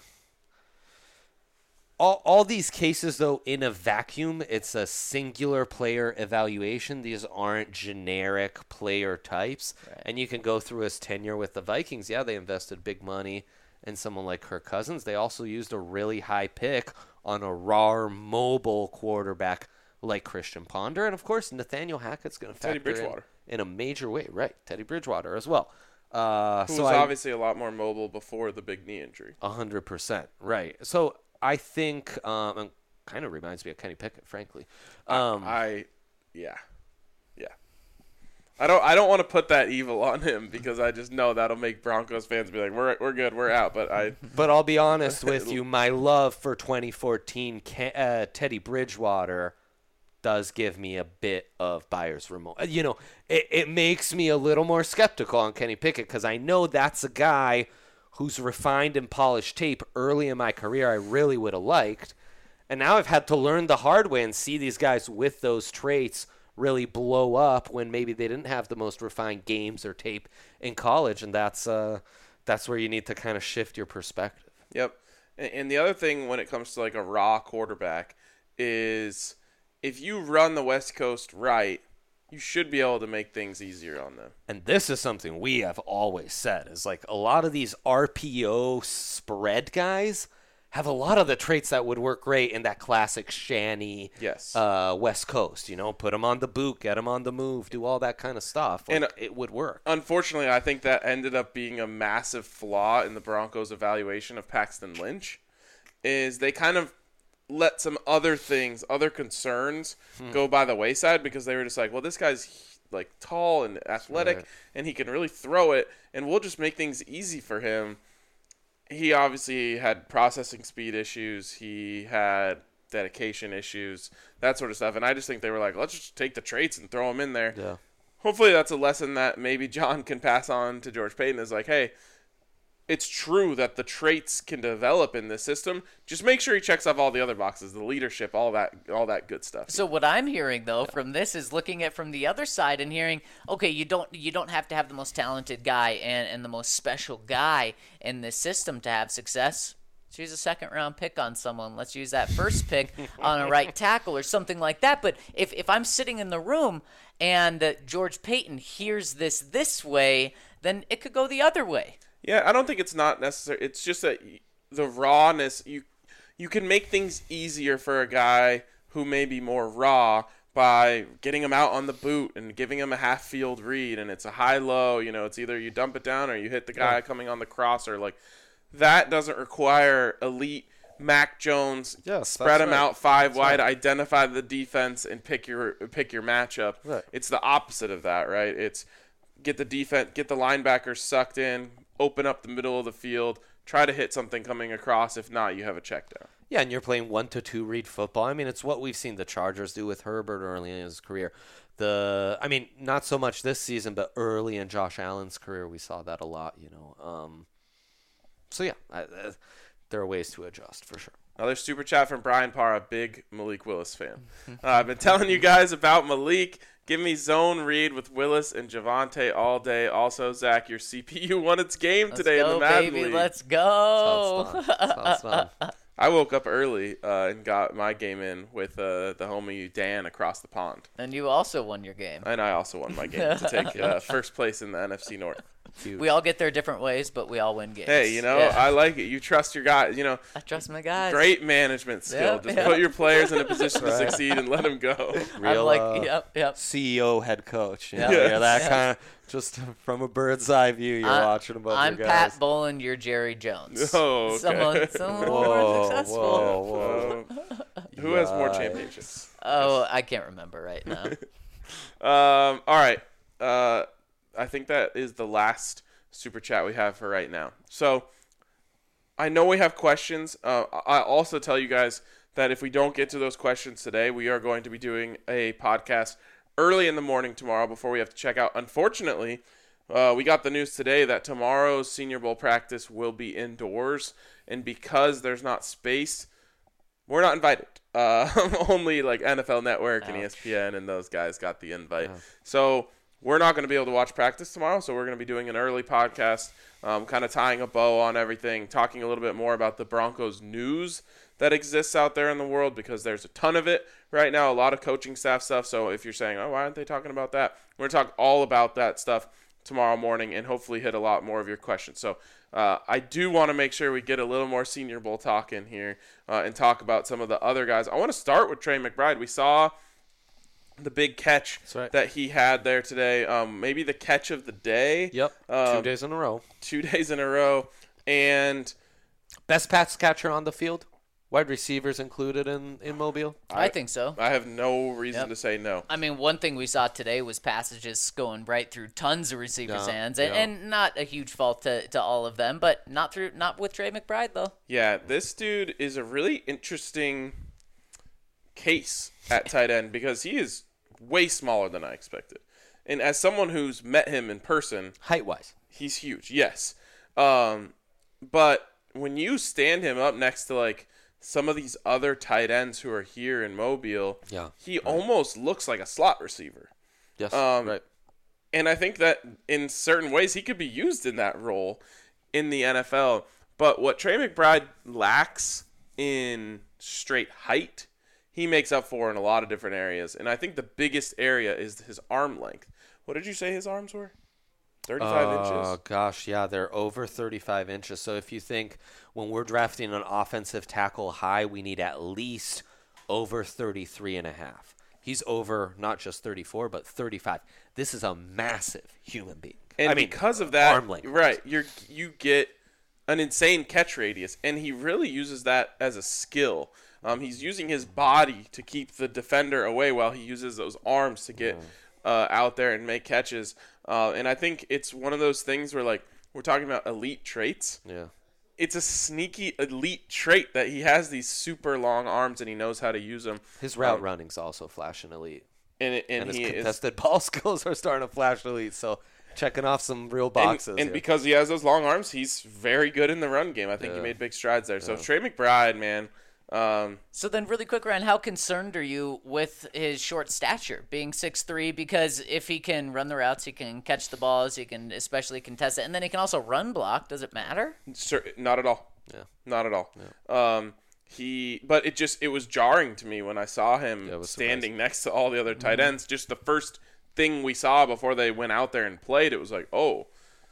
All these cases, though, in a vacuum, it's a singular player evaluation. These aren't generic player types. Right. And you can go through his tenure with the Vikings. Yeah, they invested big money in someone like Kirk Cousins. They also used a really high pick on a raw, mobile quarterback like Christian Ponder. And, of course, Nathaniel Hackett's going to factor in a major way. Right, Teddy Bridgewater as well. Who was obviously a lot more mobile before the big knee injury. 100%, right. So I think it kind of reminds me of Kenny Pickett, frankly. Yeah. I don't want to put that evil on him because I just know that'll make Broncos fans be like, we're good, we're out. But I'll be honest with you, my love for 2014 Teddy Bridgewater does give me a bit of buyer's remorse. You know, it makes me a little more skeptical on Kenny Pickett because I know that's a guy who's refined and polished tape early in my career I really would have liked. And now I've had to learn the hard way and see these guys with those traits really blow up when maybe they didn't have the most refined games or tape in college. And that's where you need to kind of shift your perspective. Yep. And the other thing when it comes to like a raw quarterback is if you run the West Coast right, you should be able to make things easier on them. And this is something we have always said is like a lot of these RPO spread guys have a lot of the traits that would work great in that classic Shanny West Coast. You know, put them on the boot, get them on the move, do all that kind of stuff. Like, and it would work. Unfortunately, I think that ended up being a massive flaw in the Broncos' evaluation of Paxton Lynch is they kind of let some other things, other concerns go by the wayside because they were just like, well, this guy's like tall and athletic and he can really throw it and we'll just make things easy for him. He obviously had processing speed issues. He had dedication issues, that sort of stuff. And I just think they were like, let's just take the traits and throw them in there. Yeah. Hopefully that's a lesson that maybe John can pass on to George Paton is like, hey, it's true that the traits can develop in this system. Just make sure he checks off all the other boxes, the leadership, all that good stuff. So what I'm hearing though from this is looking at from the other side and hearing, okay, you don't have to have the most talented guy and the most special guy in this system to have success. Let's use a second-round pick on someone. Let's use that first pick on a right tackle or something like that. But if I'm sitting in the room and George Paton hears this way, then it could go the other way. Yeah, I don't think it's not necessary. It's just that the rawness, you can make things easier for a guy who may be more raw by getting him out on the boot and giving him a half-field read, and it's a high-low. You know, it's either you dump it down or you hit the guy coming on the crosser. Like, that doesn't require elite Mac Jones, spread him out five wide, identify the defense, and pick your matchup. Right. It's the opposite of that, right? It's get the defense, get the linebackers sucked in, open up the middle of the field, try to hit something coming across. If not, you have a check down. Yeah, and you're playing 1-2 read football. I mean, it's what we've seen the Chargers do with Herbert early in his career. Not so much this season, but early in Josh Allen's career, we saw that a lot, you know. There are ways to adjust for sure. Another super chat from Brian Parr, a big Malik Willis fan. I've been telling you guys about Malik. Give me zone read with Willis and Javonte all day. Also, Zach, your CPU won its game today in the Madden baby, League. let's go. Sounds fun. I woke up early and got my game in with the homie Dan across the pond. And you also won your game. And I also won my game to take first place in the NFC North. We all get there different ways, but we all win games. Hey, Yeah. I like it. You trust your guys. I trust my guys. Great management skill. Yep, Just yep. put your players in a position to succeed and let them go. I'm Real, like, yep. CEO head coach. You know, Yeah. you're that Yeah. kind of just from a bird's eye view. You're watching above I'm your guys. Pat Bolin, you're Jerry Jones. Oh, okay. Someone more successful. Whoa. Who has more Yikes. championships? Oh, I can't remember right now. All right. I think that is the last super chat we have for right now. So I know we have questions. I also tell you guys that if we don't get to those questions today, we are going to be doing a podcast early in the morning tomorrow before we have to check out. Unfortunately, we got the news today that tomorrow's Senior Bowl practice will be indoors, and because there's not space, we're not invited. Only like NFL Network and ESPN and those guys got the invite. So we're not going to be able to watch practice tomorrow, so we're going to be doing an early podcast, kind of tying a bow on everything, talking a little bit more about the Broncos news that exists out there in the world, because there's a ton of it right now, a lot of coaching staff stuff. So if you're saying, oh, why aren't they talking about that? We're going to talk all about that stuff tomorrow morning and hopefully hit a lot more of your questions. So I do want to make sure we get a little more Senior Bowl talk in here and talk about some of the other guys. I want to start with Trey McBride. We saw the big catch that he had there today. Maybe the catch of the day. Yep. 2 days in a row. 2 days in a row. And Best pass catcher on the field. Wide receivers included in Mobile. I think so. I have no reason to say no. I mean, one thing we saw today was passages going right through tons of receivers' hands, yeah. and not a huge fault to all of them, but not with Trey McBride though. Yeah, this dude is a really interesting case at tight end because he is way smaller than I expected. And as someone who's met him in person, Height-wise. he's huge, yes. But when you stand him up next to like some of these other tight ends who are here in Mobile, he almost looks like a slot receiver. Yes, right. And I think that in certain ways he could be used in that role in the NFL. But what Trey McBride lacks in straight height, he makes up for in a lot of different areas. And I think the biggest area is his arm length. What did you say his arms were? 35 inches? Oh, gosh, yeah, they're over 35 inches. So if you think when we're drafting an offensive tackle high, we need at least over 33 and a half. He's over not just 34, but 35. This is a massive human being. And because of that, arm length. right, you get an insane catch radius, and he really uses that as a skill. He's using his body to keep the defender away while he uses those arms to get out there and make catches. And I think it's one of those things where, like, we're talking about elite traits. Yeah. It's a sneaky elite trait that he has these super long arms and he knows how to use them. His route running's also flashing elite. And his he is contested ball skills are starting to flash elite. So checking off some real boxes. And because he has those long arms, he's very good in the run game. I think he made big strides there. So Trey McBride, man. So then really quick, Ryan, how concerned are you with his short stature, being 6'3"? Because if he can run the routes, he can catch the balls, he can especially contest it, and then he can also run block. Does it matter? Not at all. Yeah. Not at all. Yeah. But it was jarring to me when I saw him standing next to all the other tight ends. Just the first thing we saw before they went out there and played, it was like, oh,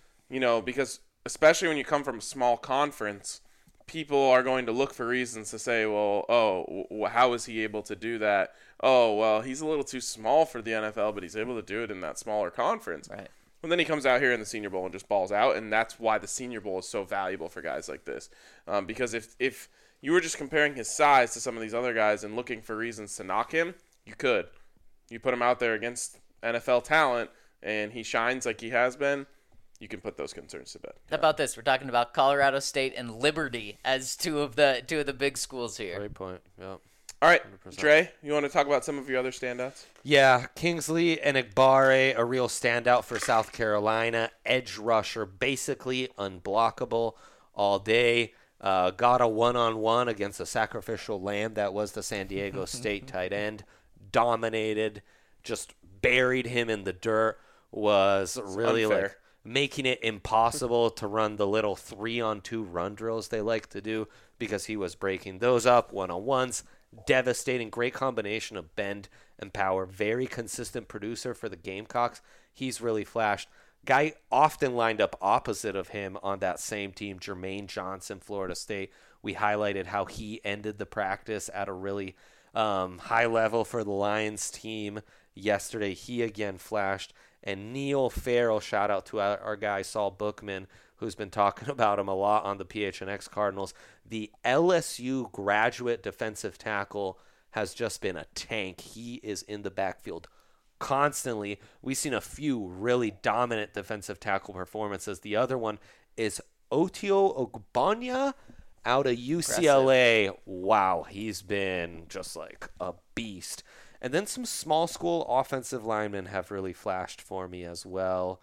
because especially when you come from a small conference, people are going to look for reasons to say, well, how is he able to do that? Oh, well, he's a little too small for the NFL, but he's able to do it in that smaller conference. Right. And then he comes out here in the Senior Bowl and just balls out, and that's why the Senior Bowl is so valuable for guys like this. Because if you were just comparing his size to some of these other guys and looking for reasons to knock him, you could. You put him out there against NFL talent, and he shines like he has been, you can put those concerns to bed. How about this? We're talking about Colorado State and Liberty as two of the big schools here. Great point. Yep. All right, 100%. Dre, you want to talk about some of your other standouts? Yeah, Kingsley and Igbare, a real standout for South Carolina. Edge rusher, basically unblockable all day. got a one-on-one against a sacrificial lamb that was the San Diego State tight end. Dominated, just buried him in the dirt. Was really unfair. like making it impossible to run the little 3-on-2 run drills they like to do because he was breaking those up one-on-ones. Devastating, great combination of bend and power. Very consistent producer for the Gamecocks. He's really flashed. Guy often lined up opposite of him on that same team, Jermaine Johnson, Florida State. We highlighted how he ended the practice at a really high level for the Lions team yesterday. He again flashed. And Neil Farrell, shout out to our guy Saul Bookman, who's been talking about him a lot on the PHNX Cardinals. The LSU graduate defensive tackle has just been a tank. He is in the backfield constantly. We've seen a few really dominant defensive tackle performances. The other one is Otio Ogbonna out of UCLA. Impressive. Wow, he's been just like a beast. And then some small school offensive linemen have really flashed for me as well.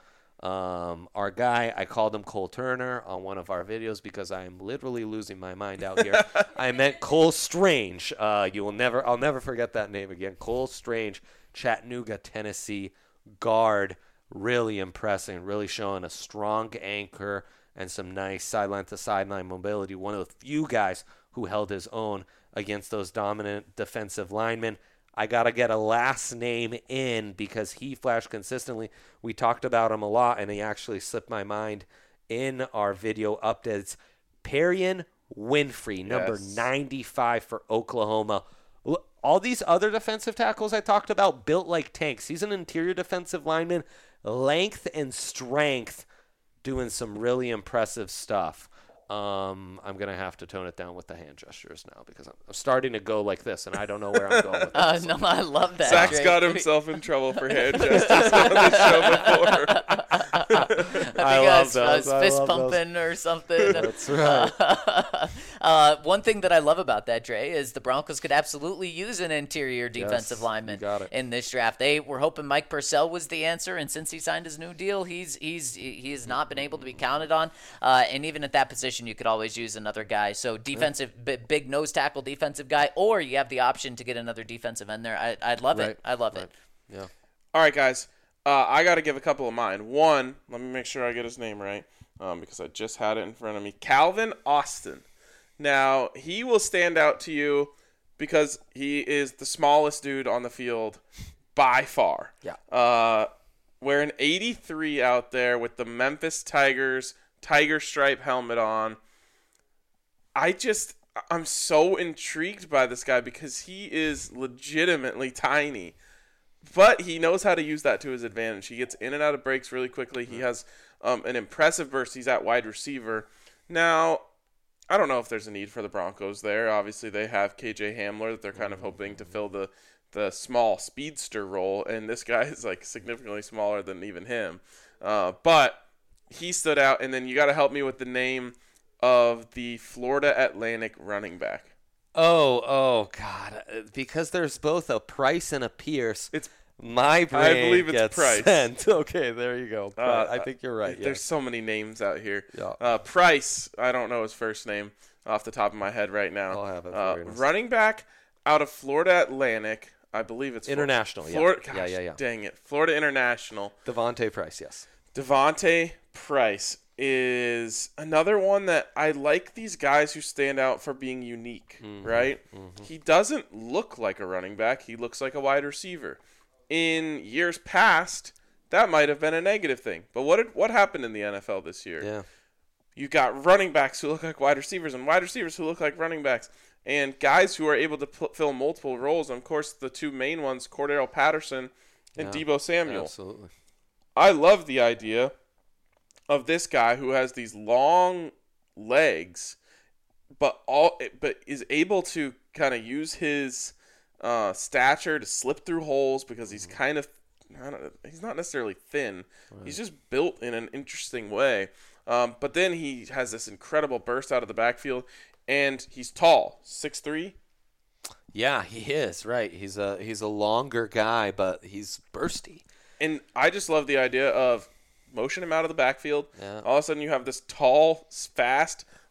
Our guy, I called him Cole Turner on one of our videos because I am literally losing my mind out here. I meant Cole Strange. I'll never forget that name again. Cole Strange, Chattanooga, Tennessee guard. Really impressing, really showing a strong anchor and some nice sideline to sideline mobility. One of the few guys who held his own against those dominant defensive linemen. I got to get a last name in because he flashed consistently. We talked about him a lot, and he actually slipped my mind in our video updates. Perrion Winfrey, number 95 for Oklahoma. All these other defensive tackles I talked about built like tanks. He's an interior defensive lineman, length and strength, doing some really impressive stuff. I'm going to have to tone it down with the hand gestures now because I'm starting to go like this, and I don't know where I'm going with this. No, I love that. Zach's Drake. got himself in trouble for hand gestures on this show before. I love think I was those. I fist love those. pumping or something. That's right. One thing that I love about that, Dre, is the Broncos could absolutely use an interior defensive lineman you got it. in this draft. They were hoping Mike Purcell was the answer, and since he signed his new deal, he has not been able to be counted on. And even at that position, you could always use another guy. So defensive, big nose tackle defensive guy, or you have the option to get another defensive end there. I'd love it. I love it. Yeah. All right, guys. I got to give a couple of mine. One, let me make sure I get his name right because I just had it in front of me. Calvin Austin. Now, he will stand out to you because he is the smallest dude on the field by far. Yeah. Wearing 83 out there with the Memphis Tigers tiger stripe helmet on. I'm so intrigued by this guy because he is legitimately tiny. But he knows how to use that to his advantage. He gets in and out of breaks really quickly. He has an impressive burst. He's at wide receiver. Now, I don't know if there's a need for the Broncos there. Obviously, they have KJ Hamler that they're kind of hoping to fill the small speedster role. And this guy is like significantly smaller than even him. But he stood out. And then you got to help me with the name of the Florida Atlantic running back. Oh, God. Because there's both a Price and a Pierce. It's my brain I believe it's gets Price. sent. Okay, there you go. I think you're right. There's so many names out here. Yeah. Price, I don't know his first name off the top of my head right now. I'll have it for you. Running back out of Florida Atlantic. I believe it's International, Florida. yeah. Gosh, Yeah. Dang it. Florida International. Devontae Price, yes. Devontae Price is another one that I like these guys who stand out for being unique, right? He doesn't look like a running back. He looks like a wide receiver. In years past, that might have been a negative thing. But what happened in the NFL this year? Yeah. You got running backs who look like wide receivers and wide receivers who look like running backs and guys who are able to fill multiple roles. And, of course, the two main ones, Cordero Patterson and Deebo Samuel. Absolutely. I love the idea of this guy who has these long legs, but is able to kind of use his stature to slip through holes because he's kind of he's not necessarily thin. Right. He's just built in an interesting way. But then he has this incredible burst out of the backfield, and he's tall, 6'3". Yeah, he is, right. He's a longer guy, but he's bursty. And I just love the idea of motion him out of the backfield. Yeah. All of a sudden you have this tall, fast,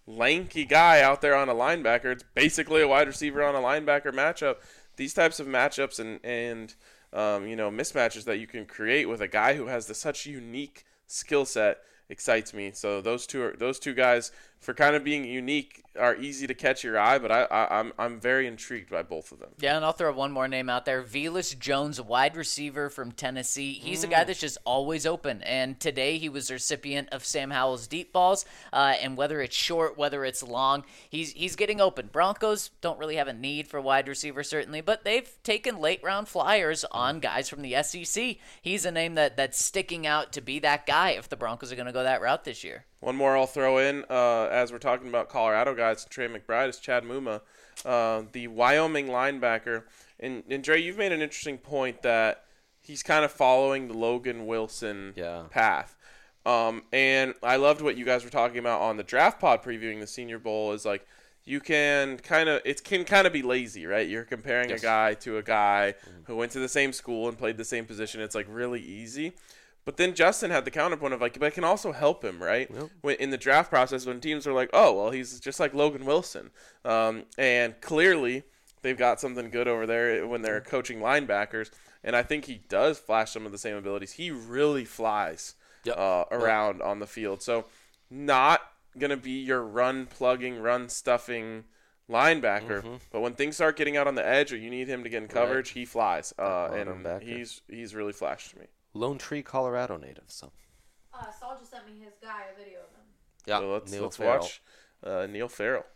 lanky guy out there on a linebacker. It's basically a wide receiver on a linebacker matchup. These types of matchups and mismatches that you can create with a guy who has such unique skill set excites me. So those two guys, for kind of being unique, are easy to catch your eye, but I'm very intrigued by both of them. Yeah, and I'll throw one more name out there. Velus Jones, wide receiver from Tennessee. He's a guy that's just always open, and today he was the recipient of Sam Howell's deep balls, and whether it's short, whether it's long, he's getting open. Broncos don't really have a need for wide receiver, certainly, but they've taken late-round flyers on guys from the SEC. He's a name that's sticking out to be that guy if the Broncos are going to go that route this year. One more I'll throw in, as we're talking about Colorado guys, Trey McBride, is Chad Muma, the Wyoming linebacker. And Dre, you've made an interesting point that he's kind of following the Logan Wilson path. And I loved what you guys were talking about on the draft pod previewing the Senior Bowl is like, you can kind of be lazy, right? You're comparing a guy to a guy who went to the same school and played the same position. It's like really easy. But then Justin had the counterpoint of like, but I can also help him, right? Yep. In the draft process, when teams are like, oh, well, he's just like Logan Wilson. And clearly they've got something good over there when they're coaching linebackers. And I think he does flash some of the same abilities. He really flies around on the field. So not going to be your run-plugging, run-stuffing linebacker. But when things start getting out on the edge or you need him to get in coverage, he flies. And he's really flashed to me. Lone Tree, Colorado native. So. Saul just sent me his guy a video of him. Yeah, so let's watch Neil Farrell.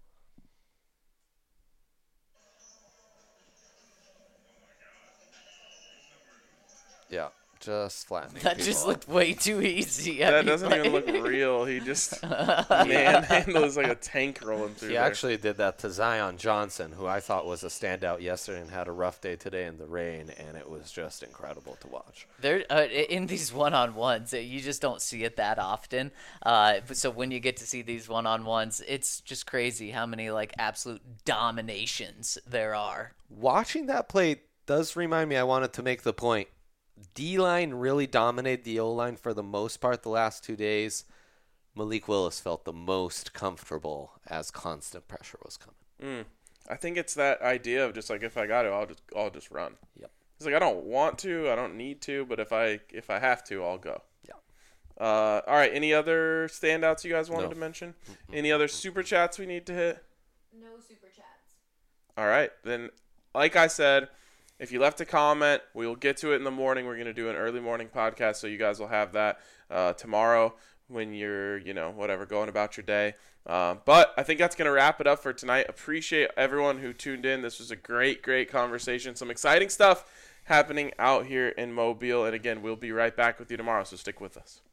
Yeah, just flattening. That just looked way too easy. That doesn't even look real. He just manhandles like a tank rolling through. He actually did that to Zion Johnson, who I thought was a standout yesterday and had a rough day today in the rain, and it was just incredible to watch. There, in these one-on-ones, you just don't see it that often. So when you get to see these one-on-ones, it's just crazy how many like absolute dominations there are. Watching that play does remind me. I wanted to make the point. D-line really dominated the O-line for the most part the last 2 days. Malik Willis felt the most comfortable as constant pressure was coming. I think it's that idea of just like, if I got to, I'll just run. Yep. It's like, I don't want to, I don't need to, but if I have to, I'll go. Yeah. All right. Any other standouts you guys wanted to mention? Any other super chats we need to hit? No super chats. All right. Then, like I said, if you left a comment, we will get to it in the morning. We're going to do an early morning podcast, so you guys will have that tomorrow when you're, going about your day. But I think that's going to wrap it up for tonight. Appreciate everyone who tuned in. This was a great, great conversation. Some exciting stuff happening out here in Mobile. And again, we'll be right back with you tomorrow, so stick with us.